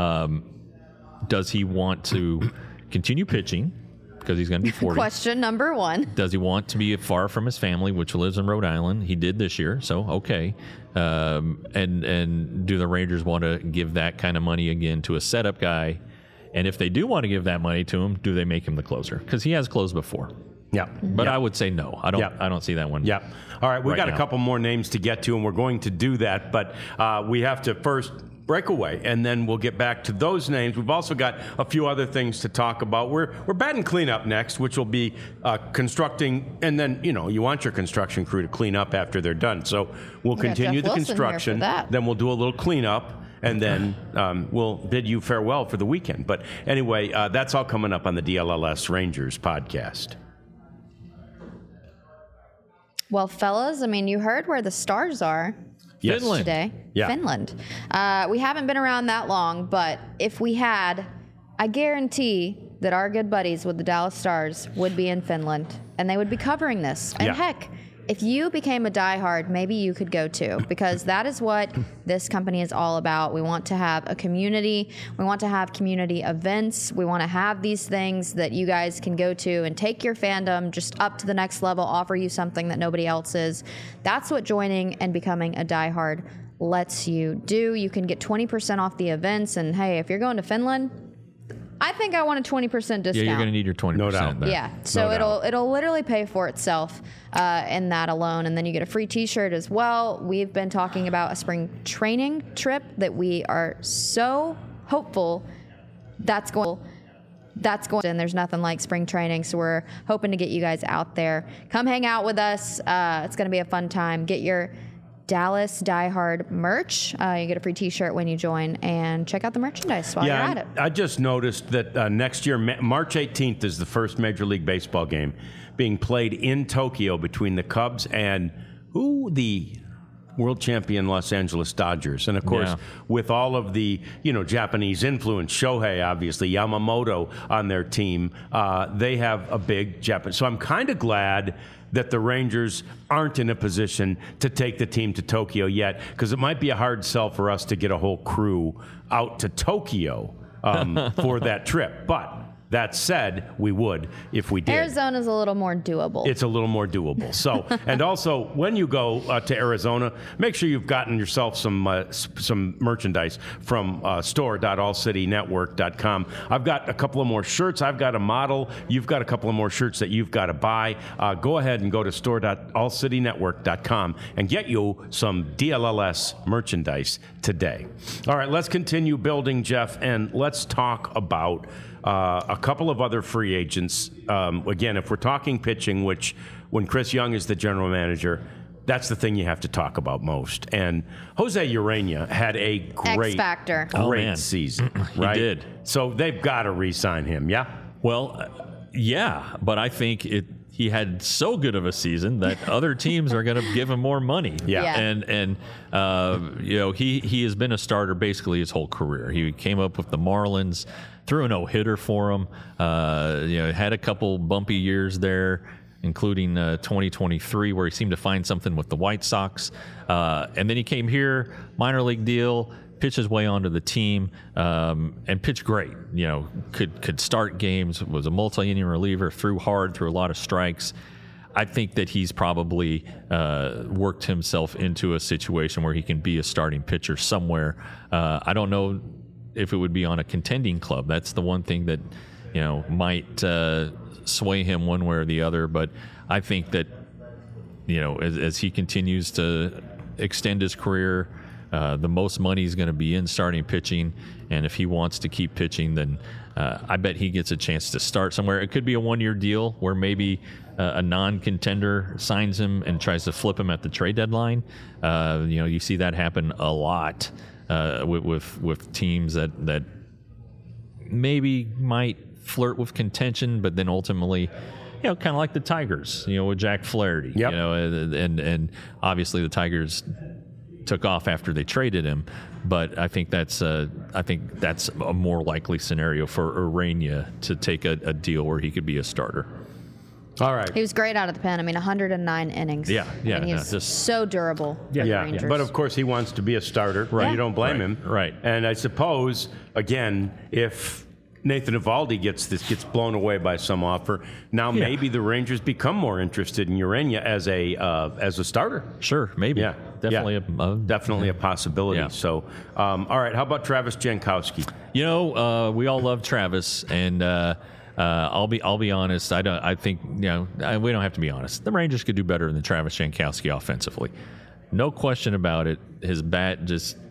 does he want to continue pitching? Because he's going to be 40. Question number one. Does he want to be far from his family, which lives in Rhode Island? He did this year, so okay. And do the Rangers want to give that kind of money again to a setup guy? And if they do want to give that money to him, do they make him the closer? Because he has closed before. Yeah. But I would say no. I don't see that one. Yeah. All right, we've got now. a couple more names to get to, and we're going to do that. But we have to first breakaway, and then we'll get back to those names. We've also got a few other things to talk about. We're batting cleanup next, which will be constructing, and then you want your construction crew to clean up after they're done. So we'll continue the construction, then we'll do a little cleanup, and then we'll bid you farewell for the weekend. But anyway, that's all coming up on the DLLS Rangers podcast. Well, fellas, I mean, you heard where the Stars are. Yes. Finland. Today. Yeah. Finland. We haven't been around that long, but if we had, I guarantee that our good buddies with the Dallas Stars would be in Finland, and they would be covering this. And heck, if you became a diehard, maybe you could go too, because that is what this company is all about. We want to have a community. We want to have community events. We want to have these things that you guys can go to and take your fandom just up to the next level, offer you something that nobody else is. That's what joining and becoming a diehard lets you do. You can get 20% off the events. And hey, if you're going to Finland, I think I want a 20% discount. Yeah, you're going to need your 20%. No doubt. There. Yeah, so it'll literally pay for itself in that alone, and then you get a free T-shirt as well. We've been talking about a spring training trip that we are so hopeful that's going. And there's nothing like spring training, so we're hoping to get you guys out there. Come hang out with us. It's going to be a fun time. Get your Dallas Diehard merch. You get a free T-shirt when you join, and check out the merchandise while you're at it. I just noticed that next year, March 18th, is the first Major League Baseball game being played in Tokyo between the Cubs and the world champion Los Angeles Dodgers. And of course, with all of the Japanese influence, Shohei, obviously, Yamamoto on their team, they have a big Japan. So I'm kind of glad that the Rangers aren't in a position to take the team to Tokyo yet, because it might be a hard sell for us to get a whole crew out to Tokyo for that trip. But that said, we would if we did. Arizona's a little more doable. It's a little more doable. So, and also when you go to Arizona, make sure you've gotten yourself some merchandise from store.allcitynetwork.com. I've got a couple of more shirts. I've got a model. You've got a couple of more shirts that you've got to buy. Go ahead and go to store.allcitynetwork.com and get you some DLLS merchandise today. All right, let's continue building, Jeff, and let's talk about a couple of other free agents. Again, if we're talking pitching, which when Chris Young is the general manager, that's the thing you have to talk about most. And Jose Urena had a great season, right? He did. So they've got to re-sign him, yeah? Well, yeah, but I think he had so good of a season that other teams are going to give him more money. Yeah. And he has been a starter basically his whole career. He came up with the Marlins, threw a no-hitter for him. Had a couple bumpy years there, including 2023, where he seemed to find something with the White Sox. And then he came here, minor league deal, pitched his way onto the team, and pitched great. Could start games, was a multi-inning reliever, threw hard, threw a lot of strikes. I think that he's probably worked himself into a situation where he can be a starting pitcher somewhere. I don't know if it would be on a contending club. That's the one thing that might sway him one way or the other. But I think that as he continues to extend his career, the most money is going to be in starting pitching, and if he wants to keep pitching, then I bet he gets a chance to start somewhere. It could be a one-year deal where maybe a non-contender signs him and tries to flip him at the trade deadline. You see that happen a lot with teams that maybe might flirt with contention, but then ultimately, kind of like the Tigers, with Jack Flaherty. Yep. And obviously the Tigers took off after they traded him, but I think that's a more likely scenario for Urena to take a deal where he could be a starter. All right. He was great out of the pen. I mean, 109 innings. Yeah. And he's so durable. Yeah. But of course, he wants to be a starter. Right. You don't blame him. Right. And I suppose, again, if Nathan Eovaldi gets blown away by some offer, now maybe the Rangers become more interested in Urena as a starter. Sure, maybe. Yeah, definitely definitely a possibility. Yeah. So, all right, how about Travis Jankowski? We all love Travis, and I'll be honest. I think we don't have to be honest. The Rangers could do better than Travis Jankowski offensively. No question about it. His bat just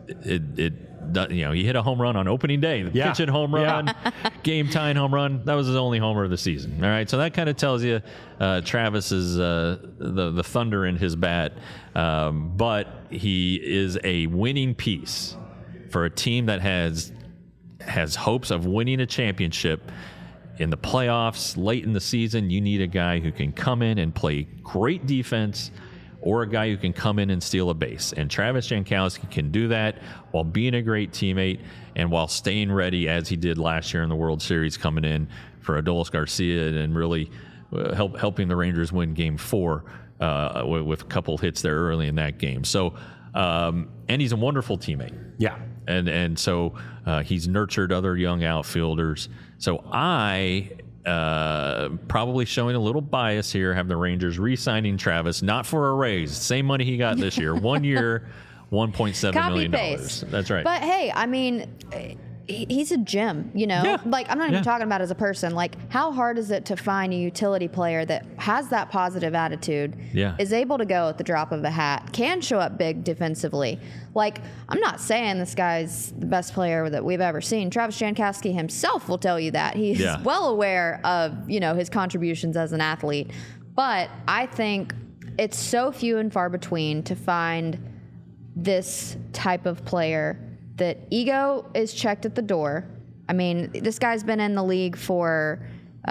he hit a home run on opening day, the pitching home run, game tying home run. That was his only homer of the season. All right, so that kind of tells you Travis is the thunder in his bat, but he is a winning piece for a team that has hopes of winning a championship. In the playoffs, late in the season, you need a guy who can come in and play great defense, or a guy who can come in and steal a base. And Travis Jankowski can do that while being a great teammate and while staying ready, as he did last year in the World Series, coming in for Adolis Garcia and really helping the Rangers win Game 4 with a couple hits there early in that game. So, and he's a wonderful teammate. Yeah. And so he's nurtured other young outfielders. So I, probably showing a little bias here, have the Rangers re-signing Travis, not for a raise. Same money he got this year. 1 year, $1.7 million. That's right. But hey, I mean, he's a gem, Yeah. Like, I'm not even talking about as a person. Like, how hard is it to find a utility player that has that positive attitude, is able to go at the drop of a hat, can show up big defensively? Like, I'm not saying this guy's the best player that we've ever seen. Travis Jankowski himself will tell you that. He's well aware of, his contributions as an athlete. But I think it's so few and far between to find this type of player that ego is checked at the door. I mean, this guy's been in the league for,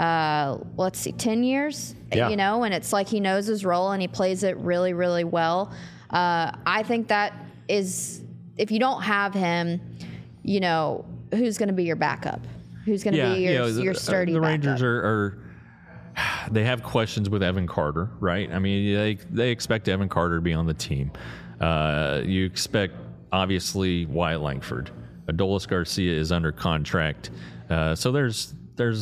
10 years, and it's like he knows his role and he plays it really, really well. I think that is, if you don't have him, who's going to be your backup? Who's going to be your sturdy The backup? Rangers are they have questions with Evan Carter, right? I mean, they expect Evan Carter to be on the team. You expect, obviously, Wyatt Langford. Adolis Garcia is under contract. So there's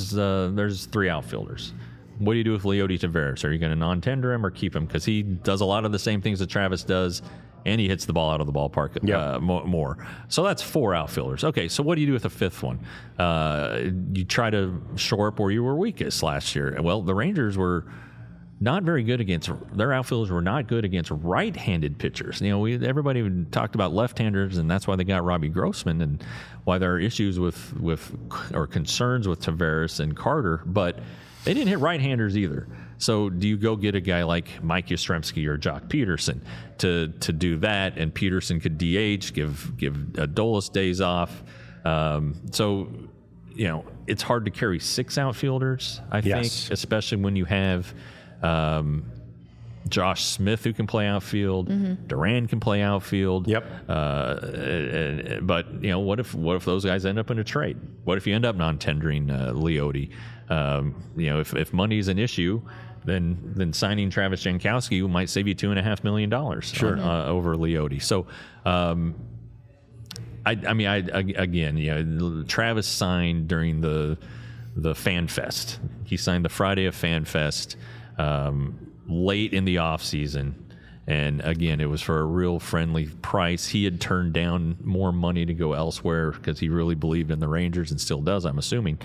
3 outfielders. What do you do with Leody Taveras? Are you going to non-tender him or keep him? Because he does a lot of the same things that Travis does, and he hits the ball out of the ballpark more. So that's 4 outfielders. Okay, so what do you do with the 5th one? You try to shore up where you were weakest last year. Well, the Rangers were not very good against, their outfielders were not good against right-handed pitchers. Everybody talked about left-handers, and that's why they got Robbie Grossman, and why there are issues or concerns with Taveras and Carter, but they didn't hit right-handers either. So do you go get a guy like Mike Yastrzemski or Jock Peterson to do that, and Peterson could DH, give Adolis days off? So it's hard to carry 6 outfielders, I think, especially when you have Josh Smith, who can play outfield. Duran can play outfield. But what if those guys end up in a trade? What if you end up non-tendering Leody? If money's an issue, then signing Travis Jankowski might save you $2.5 million over Leody. So Travis signed during the Fan Fest. He signed the Friday of Fan Fest. Late in the off season, and again, it was for a real friendly price. He had turned down more money to go elsewhere because he really believed in the Rangers, and still does, I'm assuming.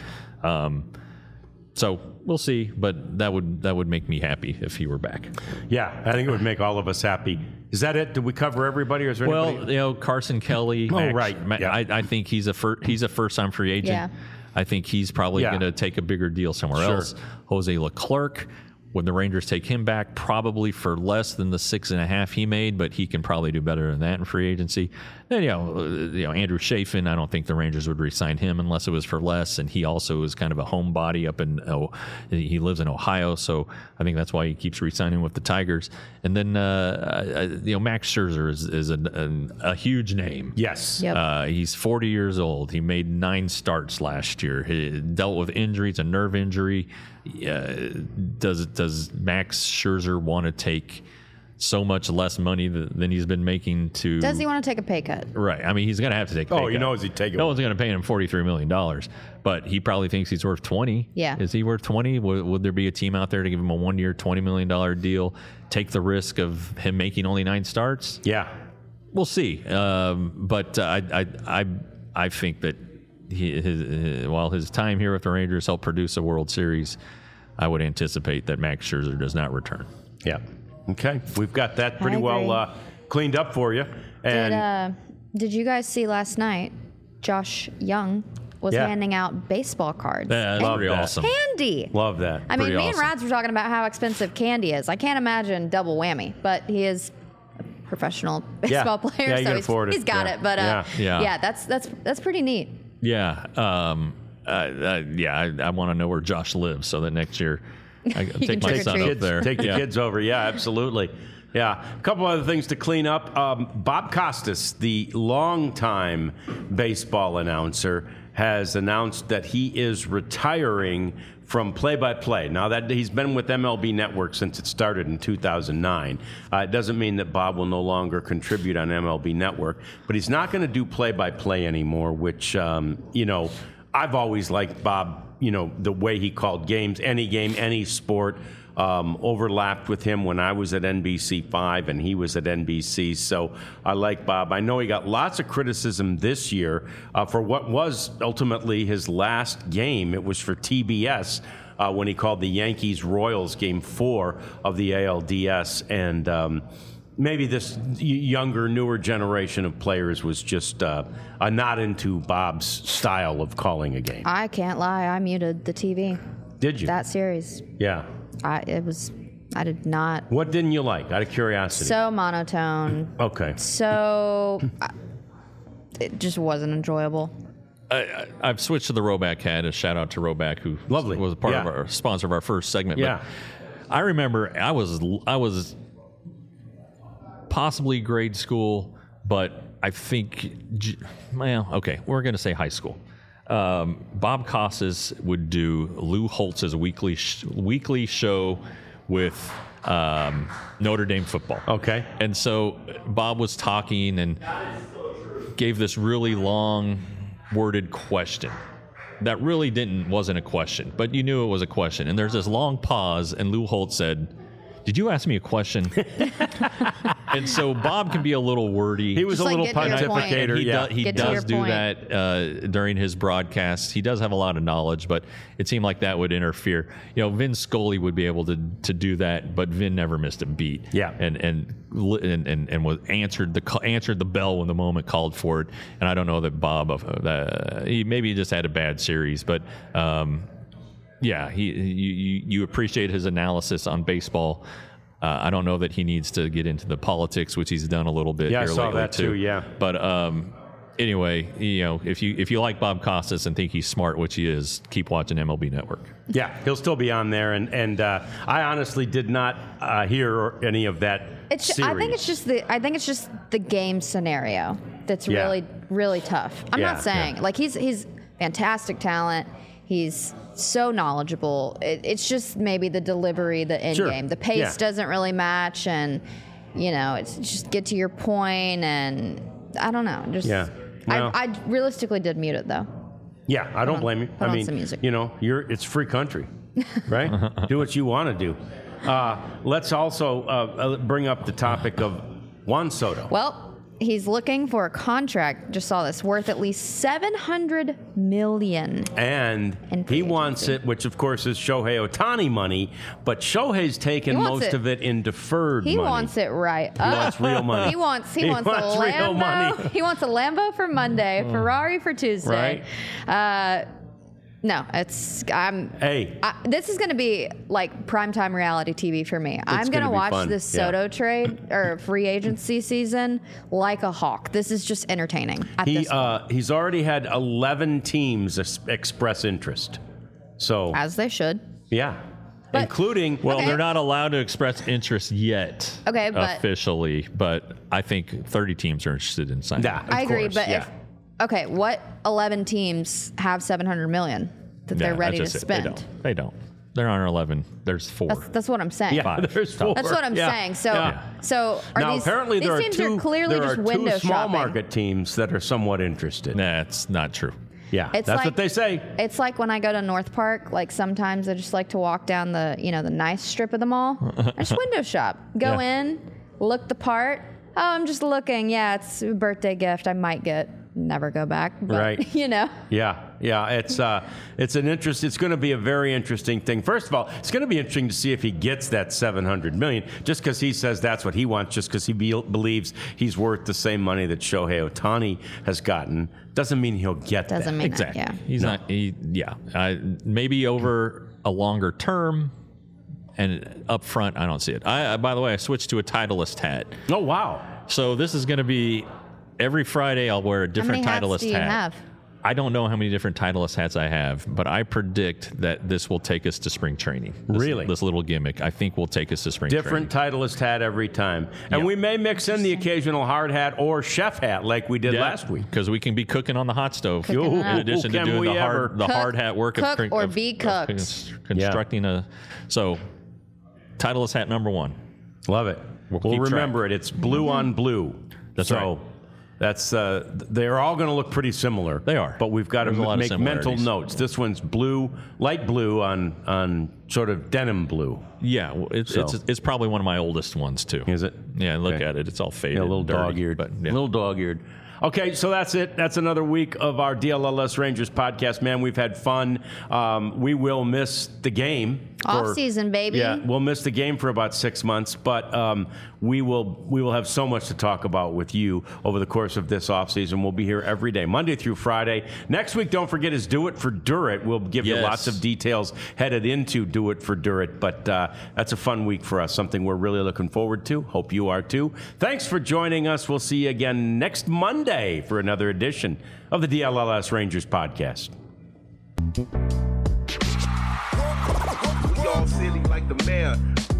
So we'll see, but that would make me happy if he were back. Yeah, I think it would make all of us happy. Is that it? Did we cover everybody, or is there anybody? Well, Carson Kelly. I think he's a first-time free agent. Yeah. I think he's probably going to take a bigger deal somewhere else. Jose Leclerc. Would the Rangers take him back? Probably for less than the 6.5 he made, but he can probably do better than that in free agency. Then, Andrew Chafin, I don't think the Rangers would re-sign him unless it was for less, and he also is kind of a homebody up in, he lives in Ohio, so I think that's why he keeps re-signing with the Tigers. And then, Max Scherzer is a huge name. Yes. Yep. He's 40 years old. He made 9 starts last year. He dealt with injuries, a nerve injury. Does Max Scherzer want to take so much less money than he's been making to? Does he want to take a pay cut? Right. I mean, he's going to have to take a pay cut. He knows he'd take it. No one's going to pay him $43 million, but he probably thinks he's worth 20. Yeah. Is he worth 20? Would there be a team out there to give him a 1-year, $20 million deal, take the risk of him making only 9 starts? Yeah. We'll see. But I think that while his time here with the Rangers helped produce a World Series, I would anticipate that Max Scherzer does not return. Yeah. Okay. We've got that pretty well cleaned up for you. And Did you guys see last night? Josh Young was handing out baseball cards. That's pretty awesome. Candy. Love that. I mean, Pretty me awesome. and Rads were talking about how expensive candy is. I can't imagine double whammy, but he is a professional baseball player, Yeah, you can so afford it. he's got Yeah. it. But Yeah. that's pretty neat. Yeah. I want to know where Josh lives so that next year I can take my trick or son treat. up there. Take the kids over. Yeah, absolutely. Yeah. A couple other things to clean up. Bob Costas, the longtime baseball announcer, has announced that he is retiring from play-by-play. Now, that he's been with MLB Network since it started in 2009. It doesn't mean that Bob will no longer contribute on MLB Network, but he's not going to do play-by-play anymore, which, I've always liked Bob, the way he called games, any sport. Overlapped with him when I was at NBC5 and he was at NBC. So I like Bob. I know he got lots of criticism this year for what was ultimately his last game. It was for TBS when he called the Yankees-Royals Game 4 of the ALDS. And maybe this younger, newer generation of players was just not into Bob's style of calling a game. I can't lie. I muted the TV. Did you? That series. Yeah. I did not. What didn't you like, out of curiosity? So monotone. Okay. So it just wasn't enjoyable. I've switched to the Roback hat. A shout out to Roback, who Lovely. was a part of Yeah. our sponsor of our first segment. Yeah. But I remember I was possibly grade school, but I think, okay, we're going to say high school. Bob Costas would do Lou Holtz's weekly show with Notre Dame football. Okay. And so Bob was talking and gave this really long worded question that really wasn't a question, but you knew it was a question. And there's this long pause, and Lou Holtz said, "Did you ask me a question?" And so Bob can be a little wordy. He was Just a little get to your point. pontificator. He Get to your does do point. that during his broadcasts. He does have a lot of knowledge, but it seemed like that would interfere. Vin Scully would be able to do that, but Vin never missed a beat. Yeah. and was answered the bell when the moment called for it. And I don't know that Bob he maybe just had a bad series, but you appreciate his analysis on baseball. I don't know that he needs to get into the politics, which he's done a little bit. Yeah, here I saw lately that too, yeah. But anyway, if you like Bob Costas and think he's smart, which he is, keep watching MLB Network. Yeah, he'll still be on there, and I honestly did not hear any of that series. I think it's just the game scenario that's Yeah. really, really tough. I'm Yeah, not saying like he's fantastic talent. He's so knowledgeable. It's just maybe the delivery, the end Sure. game, the pace Yeah. doesn't really match, and it's just get to your point, and I don't know. Just Yeah. Well- I realistically did mute it though. Yeah, I don't blame you. put on some music. It's free country, right? Do what you want to do. Let's also bring up the topic of Juan Soto. Well, he's looking for a contract. Just saw this worth at least $700 million. And And free he wants agency. it, which of course is Shohei Ohtani money, but Shohei's taken He wants most it. of it in deferred He money. wants it right. He wants real money. He wants He a wants real Lambo. money. He wants a Lambo for Monday, Ferrari for Tuesday. No, this is going to be like primetime reality TV for me. I'm going gonna to be watch fun. this Yeah. Soto trade or free agency season like a hawk. This is just entertaining. At this point. He's already had 11 teams express interest. So, As they should. yeah. But- Including, Well, Okay. they're not allowed to express interest yet. Okay, but- officially, but I think 30 teams are interested in signing. yeah, of I agree, course, but yeah. what 11 teams have $700 million that they're ready to that's just it. spend? They don't. There aren't 11. There's 4. That's what I'm saying. Yeah, Five. there's 4. That's what I'm Yeah. saying. So, Yeah. so are Now, these, apparently these there teams are two, are clearly there just are window two small shopping. market teams that are somewhat interested. That's not true. Yeah, It's that's like- what they say. It's like when I go to North Park. Like sometimes I just like to walk down the the nice strip of the mall. I just window shop. Go Yeah. in, look the part. Oh, I'm just looking. Yeah, it's a birthday gift. I might get. Never go back. But, Right. You know. Yeah, It's going to be a very interesting thing. First of all, it's going to be interesting to see if he gets that $700 million. Just because he says that's what he wants, just because he believes he's worth the same money that Shohei Ohtani has gotten, doesn't mean he'll get that. Doesn't mean exactly. that, yeah. He's not. Maybe over a longer term. And up front, I don't see it. By the way, I switched to a Titleist hat. Oh, wow. So this is going to be every Friday I'll wear a different How many Titleist hats do you hat. have? I don't know how many different Titleist hats I have, but I predict that this will take us to spring training. Really? This little gimmick, I think, will take us to spring Different training. Titleist hat every time. And Yep. we may mix in the occasional hard hat or chef hat like we did last week. Because we can be cooking on the hot stove Cooking in it up. addition to Can doing we the ever? hard hat work Cook of or be cooked. constructing a. So, Titleist hat number 1. Love it. We'll keep remember it. It's blue on blue. That's so right. That's they're all going to look pretty similar. They are. But we've got There's a lot to of make mental similarities. notes. This one's blue, light blue on sort of denim blue. Yeah, well, it's probably one of my oldest ones too. Is it? Yeah, look Okay. at it. It's all faded. Yeah, a little and dirty, dog-eared. but yeah. Little dog-eared. Okay, so that's it. That's another week of our DLLS Rangers podcast. Man, we've had fun. We will miss the game. Off season, baby. Yeah, we'll miss the game for about 6 months, but we will have so much to talk about with you over the course of this off season. We'll be here every day, Monday through Friday. Next week, don't forget, is Do It for Durit. We'll give you lots of details headed into Do It for Durit, but that's a fun week for us, something we're really looking forward to. Hope you are too. Thanks for joining us. We'll see you again next Monday for another edition of the DLLS Rangers podcast. We all silly like the mayor.